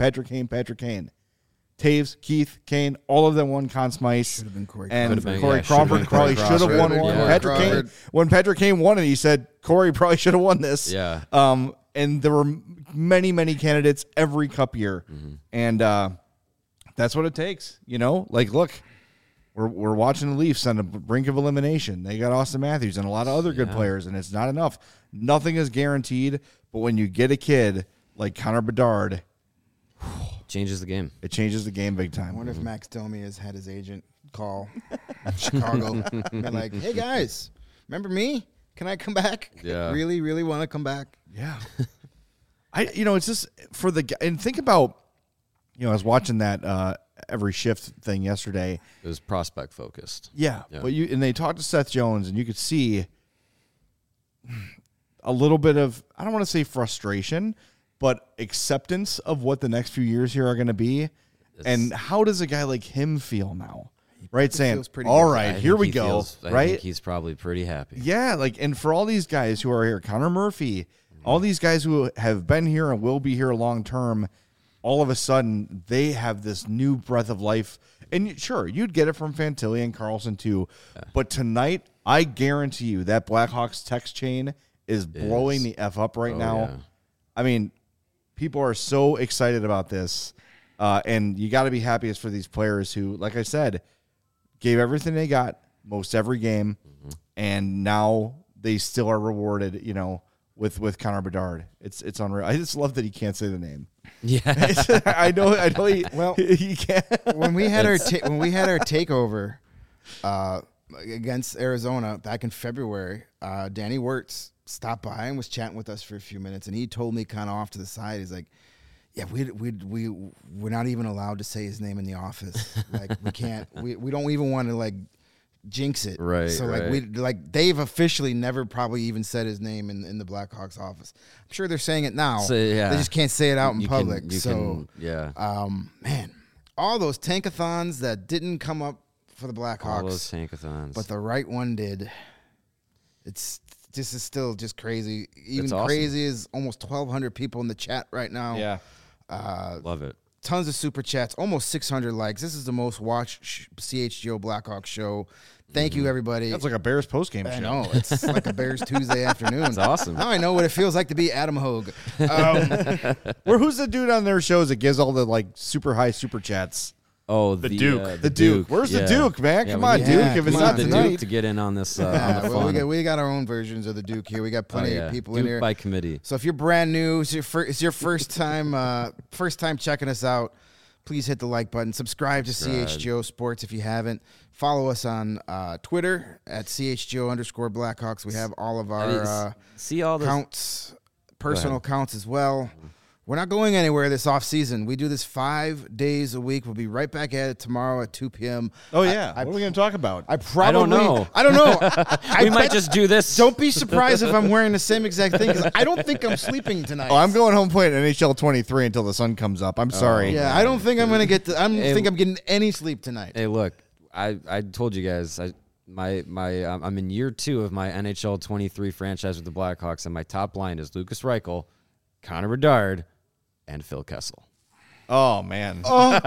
Taves, Keith, Kane, all of them won Conn Smythe. Should have been Corey And Could've been, Corey yeah, Crawford should've been probably Corey should have won Crawford. one. Yeah. Patrick Crawford. Kane, when Patrick Kane won it, he said Corey probably should have won this. Yeah. And there were many, many candidates every cup year. And that's what it takes. You know, like, look, we're watching the Leafs on the brink of elimination. They got Austin Matthews and a lot of other good players, and it's not enough. Nothing is guaranteed, but when you get a kid like Connor Bedard, Changes the game. it changes the game big I time. wonder if Max Domi has had his agent call Chicago. Been like, hey guys, remember me? Can I come back? Yeah. Really, really want to come back? Yeah. It's just for the and think about, I was watching that every shift thing yesterday. It was prospect focused. Yeah. Yeah. But they talked to Seth Jones and you could see a little bit of, I don't want to say frustration, but acceptance of what the next few years here are going to be. And how does a guy like him feel now? Right? Saying, feels pretty all good. right, I here think we he go. feels- I right? think he's probably pretty happy. Yeah, and for all these guys who are here, Connor Murphy, all these guys who have been here and will be here long term, all of a sudden they have this new breath of life. And sure, you'd get it from Fantilli and Carlson too. But tonight, I guarantee you that Blackhawks text chain is blowing the F up right now. yeah. I mean, people are so excited about this. And you got to be happiest for these players who, like I said, gave everything they got most every game, and now they still are rewarded, with Connor Bedard. It's unreal. I just love that he can't say the name. Yeah. I know he, Well, he can't. when we had our takeover against Arizona back in February, Danny Wirtz stopped by and was chatting with us for a few minutes, and he told me kind of off to the side, he's like, yeah, we're not even allowed to say his name in the office. Like, we can't. We don't even want to like jinx it. Right, So right. they've officially never probably even said his name in the Blackhawks office. I'm sure they're saying it now. So, yeah. They just can't say it out in public. Yeah. Man, all those tankathons that didn't come up for the All those Blackhawks, tankathons. but the right one did. It's still just crazy. Even It's awesome. crazy is almost 1,200 people in the chat right now. Yeah. Love it. Tons of super chats, almost 600 likes. This is the most watched CHGO Blackhawks show. Thank you, everybody. That's like a Bears postgame show. I know. It's like a Bears Tuesday afternoon. It's awesome. Now I know what it feels like to be Adam Hogue. Who's the dude on their shows that gives all the like super high super chats? Oh, The Duke. The The Duke. Where's the yeah. Duke, man? Yeah, Come we on, need- Duke. yeah, If it's come not on, the tonight, Duke to get in on this. Yeah, on the well, fun. we got our own versions of the Duke here. We got plenty of people Duke in here. by committee. So if you're brand new, it's your first time checking us out, please hit the like button. Subscribe to CHGO Sports if you haven't. Follow us on Twitter at CHGO_Blackhawks. We have all of our See all this. counts, personal counts as well. We're not going anywhere this off season. We do this 5 days a week. We'll be right back at it tomorrow at 2 p.m. oh yeah, what are we going to talk about? I probably know. I don't know. We might just do this. Don't be surprised if I'm wearing the same exact thing because I don't think I'm sleeping tonight. Oh, I'm going home playing NHL 23 until the sun comes up. I'm sorry. Yeah, I don't think I'm gonna get. I'm getting any sleep tonight. Hey, look, I told you guys, I'm in year 2 of my NHL 23 franchise with the Blackhawks, and my top line is Lucas Reichel, Connor Bedard, and Phil Kessel. Oh man.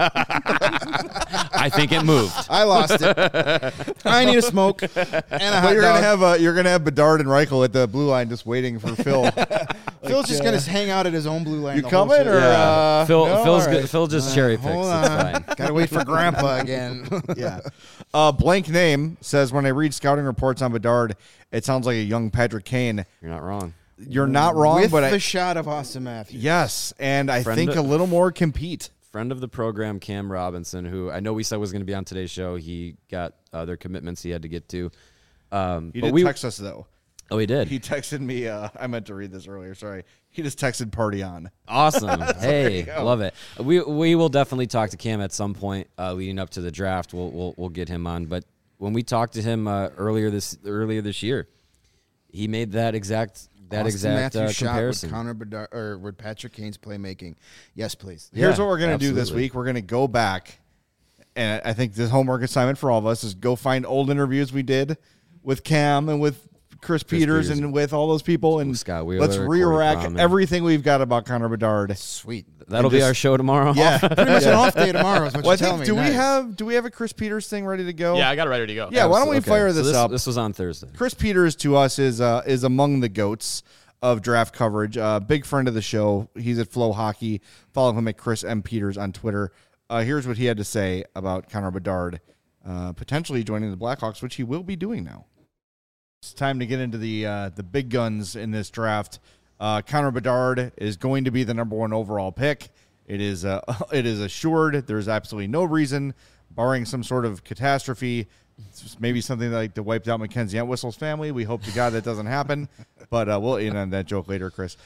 I think it moved. I lost it. I need a smoke and a hot But you're gonna have Bedard and Reichel at the blue line just waiting for Phil. Phil's just gonna hang out at his own blue line. You the whole coming series. or Phil, no? Phil's All good. right. Phil just cherry picks. Hold It's on. fine. Gotta wait for Grandpa again. Yeah. Blank Name says, when I read scouting reports on Bedard, it sounds like a young Patrick Kane. You're not wrong. You're not wrong, With but the shot of Austin Matthews. yes, and I Friend think of- a little more compete. Friend of the program, Cam Robinson, who I know we said was going to be on today's show. He got other commitments he had to get to. He did text us, though. Oh, he did? He texted me. I meant to read this earlier. Sorry. He just texted party on. Awesome. Hey, love it. We will definitely talk to Cam at some point leading up to the draft. We'll get him on. But when we talked to him earlier this year, he made that exact Matthews comparison. Shot with Connor Bedard, or with Patrick Kane's playmaking. Yes, please. Here's Yeah, what we're going to do this absolutely. week. We're going to go back, and I think the homework assignment for all of us is go find old interviews we did with Cam and with Chris Peters and with all those people, and Scott Wheeler, let's Corey re-rack Crawman. everything we've got about Connor Bedard. Sweet. That'll be our show tomorrow. Yeah. Pretty much an off day tomorrow is what Well, I you're telling think, me. Nice. do we have a Chris Peters thing ready to go? Yeah, I got it ready to go. Yeah, why don't we Okay. fire So this up? This was on Thursday. Chris Peters to us is among the GOATs of draft coverage. Big friend of the show. He's at Flow Hockey. Follow him at Chris M. Peters on Twitter. Here's what he had to say about Connor Bedard potentially joining the Blackhawks, which he will be doing now. It's time to get into the big guns in this draft. Connor Bedard is going to be the number 1 overall pick. It is assured. There's absolutely no reason, barring some sort of catastrophe, maybe something like to wipe out Mackenzie Entwistle's family. We hope to God that doesn't happen, but we'll end on that joke later, Chris.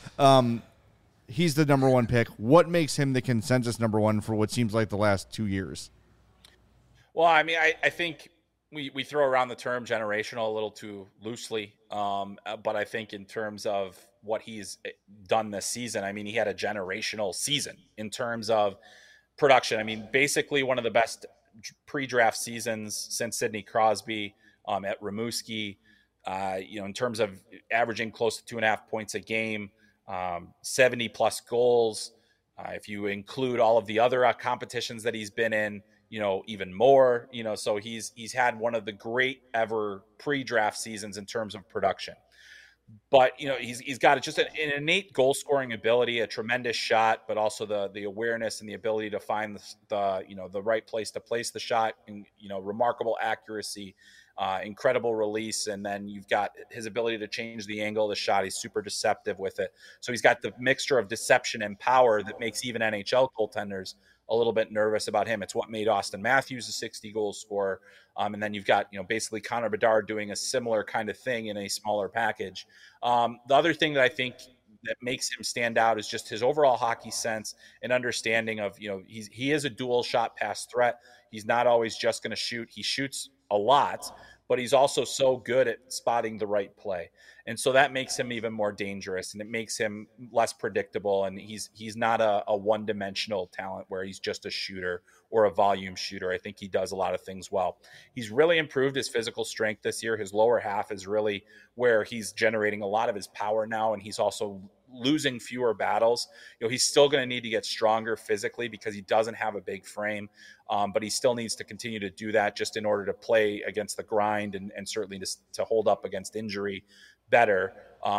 He's the number 1 pick. What makes him the consensus number 1 for what seems like the last 2 years? Well, I mean, I think we throw around the term generational a little too loosely, but I think in terms of what he's done this season, I mean, he had a generational season in terms of production. I mean, basically one of the best pre-draft seasons since Sidney Crosby at Rimouski, in terms of averaging close to 2.5 points a game, 70 plus goals. If you include all of the other competitions that he's been in, even more, so he's had one of the great ever pre-draft seasons in terms of production. But, he's got just an innate goal scoring ability, a tremendous shot, but also the awareness and the ability to find the right place to place the shot, and, remarkable accuracy, incredible release. And then you've got his ability to change the angle of the shot. He's super deceptive with it. So he's got the mixture of deception and power that makes even NHL goaltenders a little bit nervous about him. It's what made Austin Matthews a 60 goal scorer. And then you've got, basically Connor Bedard doing a similar kind of thing in a smaller package. The other thing that I think that makes him stand out is just his overall hockey sense and understanding of, he is a dual shot pass threat. He's not always just going to shoot. He shoots a lot, but he's also so good at spotting the right play. And so that makes him even more dangerous, and it makes him less predictable. And he's not a one-dimensional talent where he's just a shooter or a volume shooter. I think he does a lot of things well. He's really improved his physical strength this year. His lower half is really where he's generating a lot of his power now, and he's also losing fewer battles. He's still going to need to get stronger physically because he doesn't have a big frame, but he still needs to continue to do that just in order to play against the grind and certainly to hold up against injury better.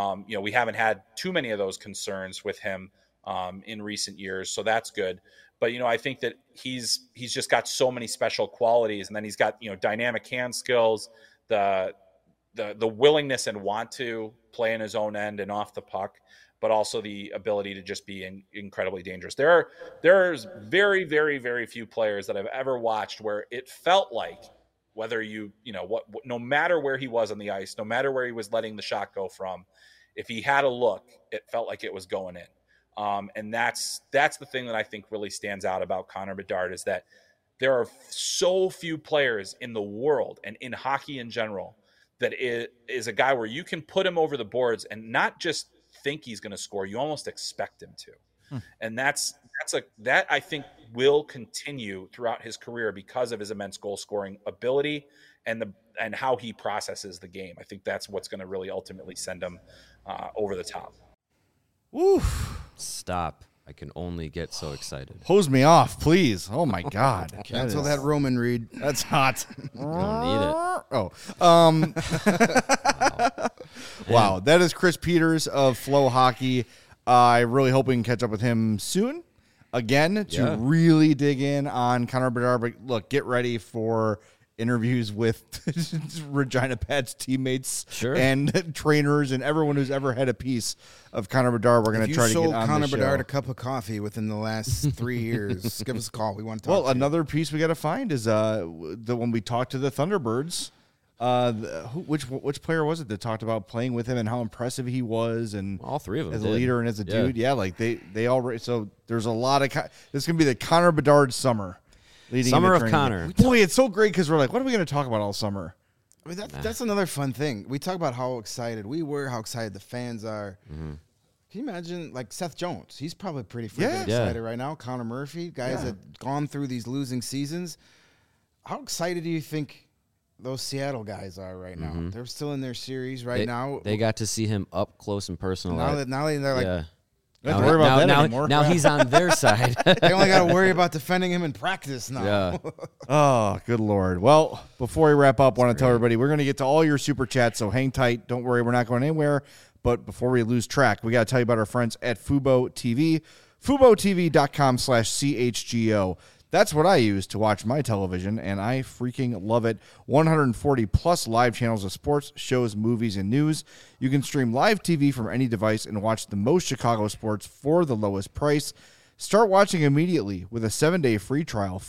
We haven't had too many of those concerns with him in recent years, so that's good. But I think that he's just got so many special qualities, and then he's got dynamic hand skills, the willingness and want to play in his own end and off the puck, but also the ability to just be incredibly dangerous. There's very, very, very few players that I've ever watched where it felt like, whether no matter where he was on the ice, no matter where he was letting the shot go from, if he had a look, it felt like it was going in. And that's the thing that I think really stands out about Connor Bedard, is that there are so few players in the world and in hockey in general that is a guy where you can put him over the boards and not just think he's going to score, you almost expect him to. And that I think will continue throughout his career because of his immense goal scoring ability and how he processes the game. I think that's what's going to really ultimately send him over the top. Woo. Stop. I can only get so excited. Hose me off, please. Oh, my God. Cancel that Roman Reed. That's hot. Don't need it. Oh. Wow. That is Chris Peters of Flow Hockey. I really hope we can catch up with him soon again to really dig in on Connor Bedard. But look, get ready for interviews with Regina Pat's teammates Sure. and trainers and everyone who's ever had a piece of Connor Bedard. We're going to try to get on Connor the show. Bedard a cup of coffee within the last 3 years, give us a call. We want to talk to you. Another piece we got to find is when we talked to the Thunderbirds. Which player was it that talked about playing with him and how impressive he was, and All three of them as did. a leader and as a dude? Yeah, like they all. So there's a lot of. This is gonna be the Connor Bedard summer. Summer of Connor. Boy, it's so great because we're like, what are we going to talk about all summer? I mean, that's another fun thing. We talk about how excited we were, how excited the fans are. Mm-hmm. Can you imagine, like, Seth Jones? He's probably pretty freaking excited right now. Connor Murphy, guys that gone through these losing seasons. How excited do you think those Seattle guys are right now? They're still in their series now. They got to see him up close and personal. Now they're like, yeah. Don't have to worry about that anymore. Now he's on their side. they only got to worry about defending him in practice now. Yeah. Oh, good Lord. Well, before we wrap up, I want to tell everybody we're going to get to all your super chats, so hang tight. Don't worry, we're not going anywhere. But before we lose track, we got to tell you about our friends at Fubo TV. FuboTV.com/CHGO. That's what I use to watch my television, and I freaking love it. 140 plus live channels of sports, shows, movies, and news. You can stream live TV from any device and watch the most Chicago sports for the lowest price. Start watching immediately with a 7-day free trial.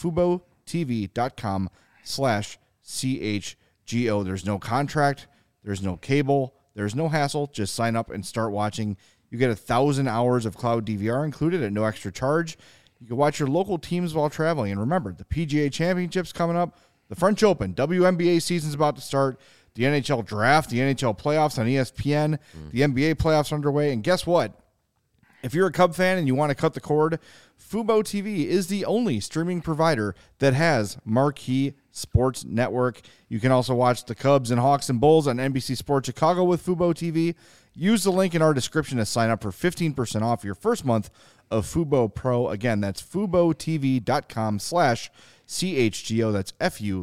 FuboTV.com/CHGO. There's no contract. There's no cable. There's no hassle. Just sign up and start watching. You get 1,000 hours of cloud DVR included at no extra charge. You can watch your local teams while traveling. And remember, the PGA Championship's coming up, the French Open, WNBA season's about to start, the NHL Draft, the NHL Playoffs on ESPN, the NBA Playoffs underway. And guess what? If you're a Cub fan and you want to cut the cord, Fubo TV is the only streaming provider that has Marquee Sports Network. You can also watch the Cubs and Hawks and Bulls on NBC Sports Chicago with Fubo TV. Use the link in our description to sign up for 15% off your first month of Fubo Pro. Again, that's FuboTV.com/CHGO. That's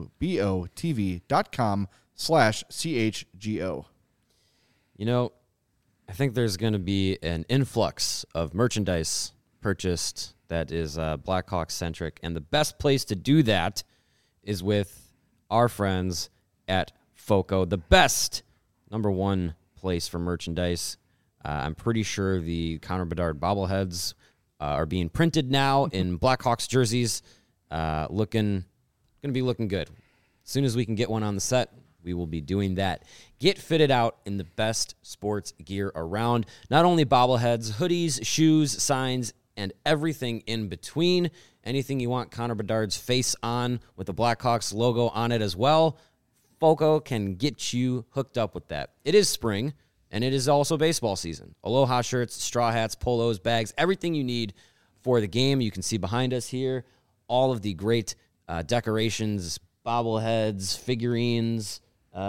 FuboTV.com/CHGO. You know, I think there's going to be an influx of merchandise purchased that is Blackhawks-centric, and the best place to do that is with our friends at FOCO, the best #1 place for merchandise. I'm pretty sure the Connor Bedard bobbleheads are being printed now in Blackhawks jerseys, going to be looking good. As soon as we can get one on the set, we will be doing that. Get fitted out in the best sports gear around. Not only bobbleheads, hoodies, shoes, signs, and everything in between. Anything you want Connor Bedard's face on with the Blackhawks logo on it as well, FOCO can get you hooked up with that. It is spring, and it is also baseball season. Aloha shirts, straw hats, polos, bags, everything you need for the game. You can see behind us here all of the great decorations, bobbleheads, figurines,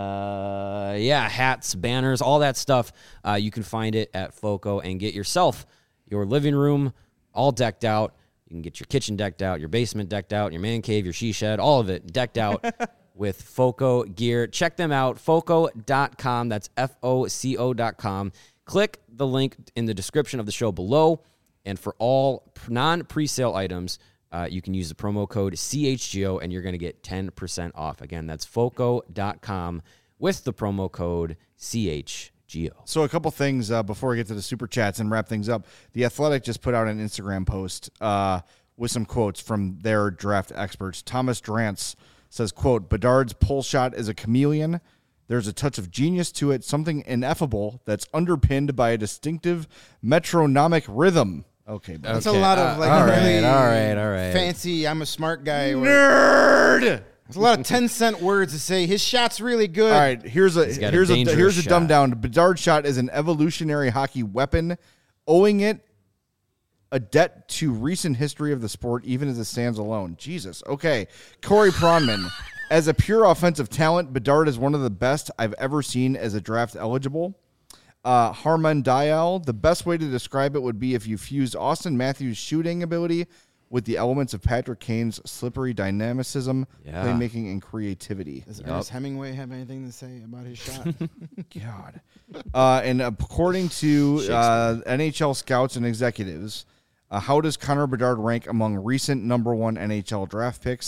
hats, banners, all that stuff. You can find it at FOCO and get yourself your living room all decked out. You can get your kitchen decked out, your basement decked out, your man cave, your she shed, all of it decked out with FOCO gear. Check them out, FOCO.com. That's FOCO.com. Click the link in the description of the show below. And for all non-presale items, you can use the promo code CHGO, and you're going to get 10% off. Again, that's FOCO.com with the promo code CHGO. So a couple things before we get to the super chats and wrap things up. The Athletic just put out an Instagram post with some quotes from their draft experts. Thomas Drance says, quote, Bedard's pull shot is a chameleon. There's a touch of genius to it, something ineffable that's underpinned by a distinctive metronomic rhythm. Okay, That's a lot of like all really right. fancy, I'm a smart guy. Nerd! There's a lot of 10-cent words to say his shot's really good. All right, here's a dangerous dumb shot. down. Bedard's shot is an evolutionary hockey weapon, owing it a debt to recent history of the sport, even as it stands alone. Jesus. Okay, Corey Pronman. As a pure offensive talent, Bedard is one of the best I've ever seen as a draft eligible. Harman Dial, the best way to describe it would be if you fused Austin Matthews' shooting ability with the elements of Patrick Kane's slippery dynamicism, playmaking, and creativity. Does Ernest Hemingway have anything to say about his shot? God. And according to NHL scouts and executives, how does Connor Bedard rank among recent #1 NHL draft picks?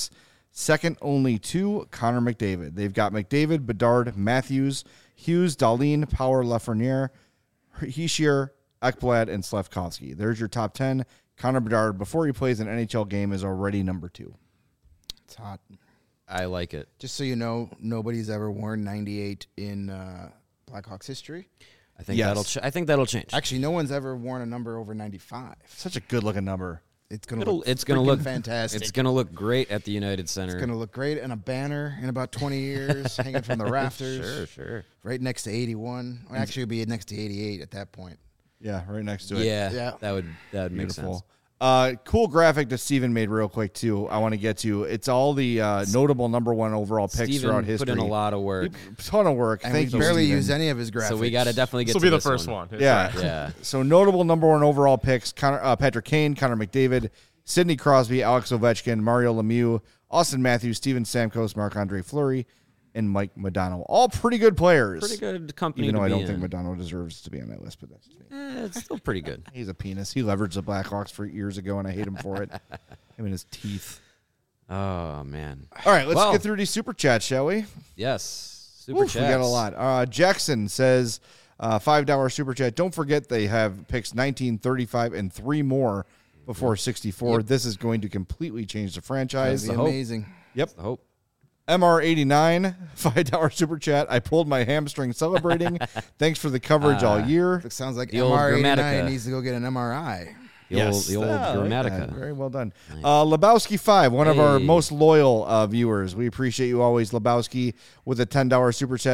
second only to Connor McDavid. They've got McDavid, Bedard, Matthews, Hughes, Dahlin, Power, Lafreniere, Hischier, Ekblad, and Slafkovsky. There's your top 10. Connor Bedard, before he plays an NHL game, is already number 2. It's hot. I like it. Just so you know, nobody's ever worn 98 in Blackhawks history. I think Yes. I think that'll change. Actually, no one's ever worn a number over 95. Such a good-looking number. It's gonna It'll- look it's gonna freaking look fantastic. It's going to look great at the United Center. It's gonna look great in a banner in about 20 years, hanging from the rafters. Sure. Right next to 81. Well, actually, it'd be next to 88 at that point. Yeah, right next to it. Yeah, Yeah. that would make Beautiful. sense. Cool graphic that Steven made real quick, too. I want to get to. It's all the notable number 1 overall picks Steven throughout history. put in a lot of work, Ton of work. And Thank we you, barely Steven. use any of his graphics. so we got to definitely get This will to be the this first one. Yeah. Yeah. So notable number 1 overall picks: Patrick Kane, Connor McDavid, Sidney Crosby, Alex Ovechkin, Mario Lemieux, Austin Matthews, Steven Stamkos, Marc-Andre Fleury, and Mike Modano. All pretty good players. Pretty good company Even to though I be don't in. think Modano deserves to be on that list, but that's just me. It's still pretty good. He's a penis. He leveraged the Blackhawks for years ago, and I hate him for it. Him and his teeth. Oh man. All right, let's Well- get through these super chats, shall we? Yes. Super Oof, we got a lot. Jackson says, $5 super chat. Don't forget they have picks 19, 35, and 3 more before 64. This is going to completely change the franchise. That'd be amazing. Yep. I hope. MR89, $5 super chat. I pulled my hamstring celebrating. Thanks for the coverage all year. It sounds like The old MR89 Gramatica. needs to go get an MRI. The old I like Gramatica. that. Very well done. Lebowski5, one of our Hey. most loyal viewers. We appreciate you always, Lebowski, with a $10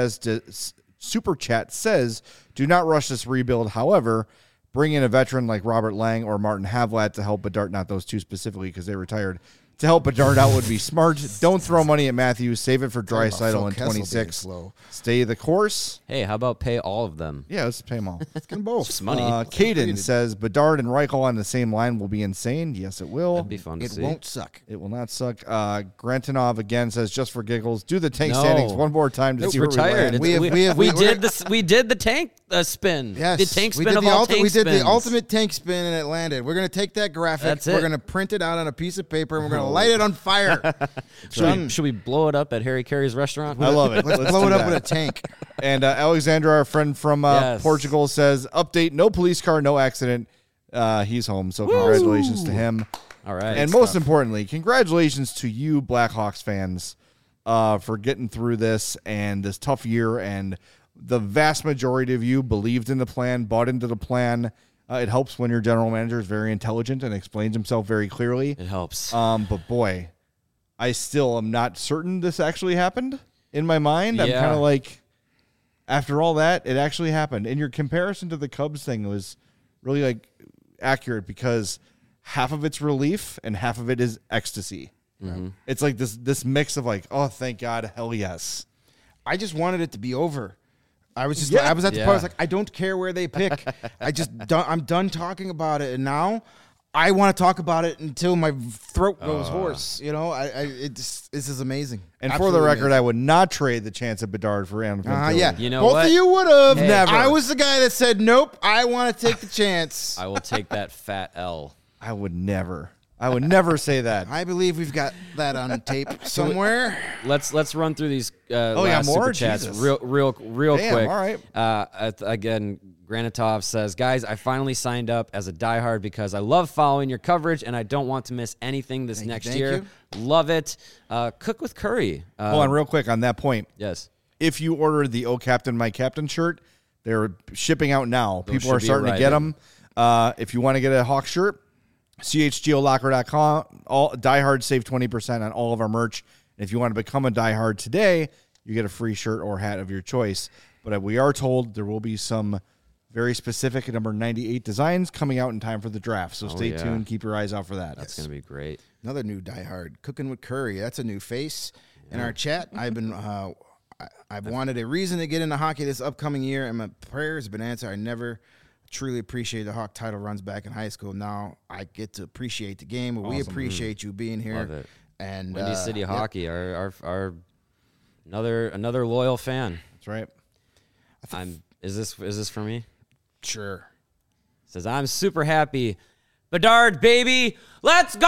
super chat says, do not rush this rebuild. However, bring in a veteran like Robert Lang or Martin Havlat to help Bedard, not those two specifically because they retired. To help Bedard out would be smart. Don't throw money at Matthews. Save it for Draisaitl in Phil Kessel being 26. slow. Stay the course. Hey, how about pay all of them? Yeah, let's pay them all. Let's get them both. It's money. Caden says Bedard and Reichel on the same line will be insane. Yes, it will. That'd be fun to It see. won't suck. It will not suck. Grantinov again says just for giggles. Do the tank No. standings one more time to It's see where retired. we land. We did this. We did the tank spin. Yes, The tank we spin did of the all ulti- tank We did spins. the ultimate tank spin and it landed. We're going to take that graphic. That's We're it. going to print it out on a piece of paper and we're going to light it on fire. Should we blow it up at Harry Carey's restaurant? I love it. Let's blow do it up that. with a tank. And Alexandra, our friend from Yes. Portugal, says update: no police car, no accident. He's home, so congratulations to him. All right. And most importantly, congratulations to you, Blackhawks fans, for getting through this and this tough year. And the vast majority of you believed in the plan, bought into the plan. It helps when your general manager is very intelligent and explains himself very clearly. it helps. But boy, I still am not certain this actually happened in my mind. I'm Yeah. kind of like, after all that, it actually happened. And your comparison to the Cubs thing was really like accurate because half of it's relief and half of it is ecstasy. It's like this mix of like, oh, thank God, hell yes. I just wanted it to be over. I was just Yeah. I was at the Yeah. part. I was like, I don't care where they pick. I'm done talking about it, and now I want to talk about it until my throat goes hoarse. You know, this is amazing. And for Absolutely the record, amazing. I would not trade the chance of Bedard for Adam Fantilli. Yeah, You know both what? of you would have. Hey. Never. I was the guy that said nope. I want to take the chance. I will take that fat L. I would never. I would never say that. I believe we've got that on tape somewhere. Let's run through these yeah, last more? super chats Jesus. real Damn, quick. all right. Again, Granitov says, guys, I finally signed up as a diehard because I love following your coverage and I don't want to miss anything this next thank year. you. Love it. Cook with Curry. Hold on real quick on that point. Yes. If you order the "Oh Captain, My Captain" shirt, they're shipping out now. People should are be starting to get arriving. them. If you want to get a Hawk shirt, chgolocker.com. All diehard save 20% on all of our merch. And if you want to become a diehard today, you get a free shirt or hat of your choice. But we are told there will be some very specific number 98 designs coming out in time for the draft. So stay yeah. tuned. Keep your eyes out for that. That's going to be great. Another new diehard, Cooking with Curry. That's a new face in our chat. I've wanted a reason to get into hockey this upcoming year, and my prayers have been answered. I never truly appreciated the Hawk title runs back in high school. Now I get to appreciate the game. We appreciate you being here. Love it. And Windy City yep. Hockey, our another loyal fan. That's right. Is this for me? Sure. Says I'm super happy Bedard, baby. Let's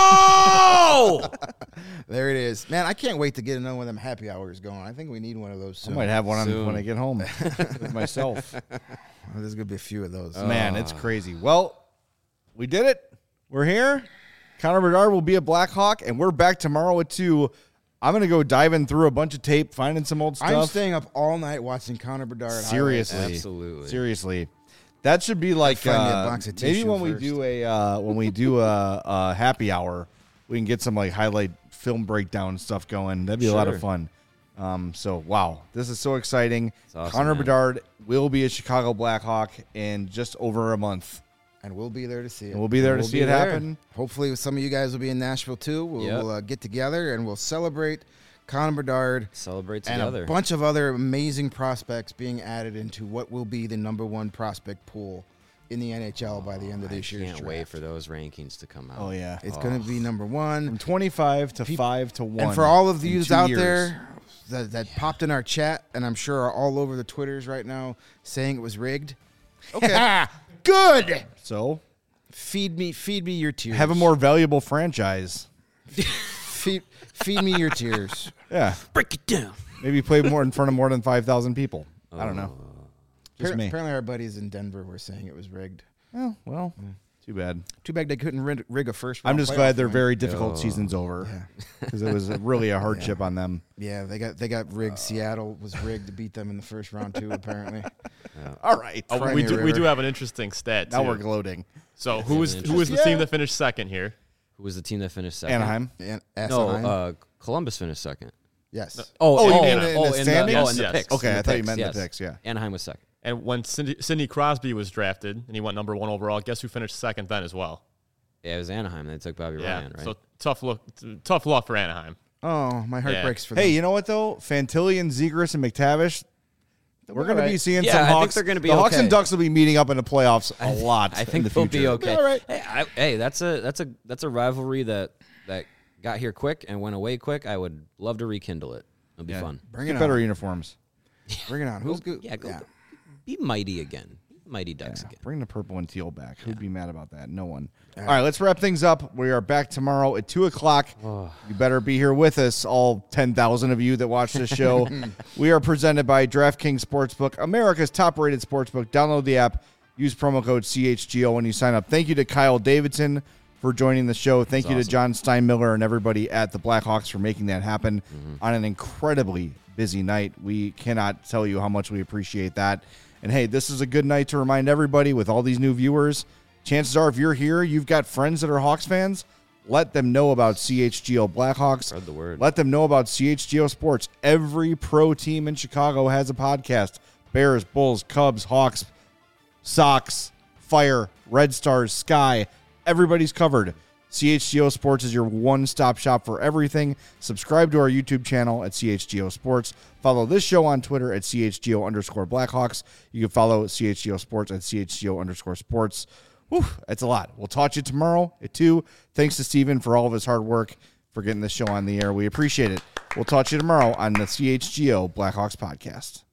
go! There it is. Man, I can't wait to get another one of them happy hours going. I think we need one of those soon. I might have one on when I get home with myself. There's going to be a few of those. Man, it's crazy. Well, we did it. We're here. Connor Bedard will be a Blackhawk, and we're back tomorrow at 2. I'm going to go diving through a bunch of tape, finding some old stuff. I'm staying up all night watching Connor Bedard. Seriously. highlights. Absolutely. Seriously. That should be like Find me a box of maybe tissue when first. we do a happy hour, we can get some like highlight film breakdown stuff going. That'd be a lot of fun. So wow, this is so exciting. Awesome, Connor man. Bedard will be a Chicago Blackhawk in just over a month. And we'll be there to see it. And we'll be there to see it happen. Hopefully, some of you guys will be in Nashville too. We'll get together and we'll celebrate Connor Bedard Celebrate and together. a bunch of other amazing prospects being added into what will be the number 1 prospect pool in the NHL by the end of this year's Can't draft. wait for those rankings to come out. Oh yeah, It's going to be number 1. from 25 to 5 to 1. And for all of in you 2 out years. there that popped in our chat, and I'm sure are all over the Twitters right now saying it was rigged. Okay, good. So Feed me your tears. have a more valuable franchise. feed me your tears. Yeah, Break it down. maybe play more in front of more than 5,000 people. I don't know. Just me. Apparently, our buddies in Denver were saying it was rigged. Oh, well, too bad. Too bad they couldn't rig a first. I'm round just playoff glad their win. very difficult season's over because it was really a hardship on them. Yeah, they got rigged. Seattle was rigged to beat them in the first round too. Apparently, All right. Oh, Crimea we do River. have an interesting stat. Now too. we're gloating. So who was the team that finished second here? Who was the team that finished second? Anaheim. and No, Anaheim. Columbus finished second. Yes. Oh, you mean in the in the standings? the Yes. picks. Okay, in the I thought you picks, meant the yes. picks, yeah. Anaheim was second. And when Sidney Crosby was drafted and he went number 1 overall, guess who finished second then as well? Yeah, it was Anaheim. They took Bobby Yeah. Ryan, right? So tough luck for Anaheim. Oh, my heart Yeah. breaks for Hey, them. you know what, though? Fantilli and Zegras and McTavish, we're going to be seeing Yeah, some I think Hawks. they're gonna be the Hawks okay. and Ducks will be meeting up in the playoffs a lot I in think the they'll future. be okay. all right. Hey, that's a rivalry that got here quick and went away quick. I would love to rekindle it. It'll be fun. Bring Get it better on. uniforms. Bring it on. Who's good? Yeah, go. Be mighty again. Mighty Ducks again. Bring the purple and teal back. Who'd be mad about that? No one. All right, let's wrap things up. We are back tomorrow at 2 o'clock. You better be here with us, all 10,000 of you that watch this show. We are presented by DraftKings Sportsbook, America's top-rated sportsbook. Download the app. Use promo code CHGO when you sign up. Thank you to Kyle Davidson for joining the show. Thank you to John Steinmiller and everybody at the Blackhawks for making that happen on an incredibly busy night. We cannot tell you how much we appreciate that. And hey, this is a good night to remind everybody with all these new viewers, chances are if you're here, you've got friends that are Hawks fans, let them know about CHGO Blackhawks. Spread the word. Let them know about CHGO Sports. Every pro team in Chicago has a podcast. Bears, Bulls, Cubs, Hawks, Sox, Fire, Red Stars, Sky. Everybody's covered. CHGO Sports is your one-stop shop for everything. Subscribe to our YouTube channel at CHGO Sports. Follow this show on Twitter at CHGO_Blackhawks. You can follow CHGO Sports at CHGO_Sports. Whew, that's a lot. We'll talk to you tomorrow at 2. Thanks to Steven for all of his hard work for getting this show on the air. We appreciate it. We'll talk to you tomorrow on the CHGO Blackhawks podcast.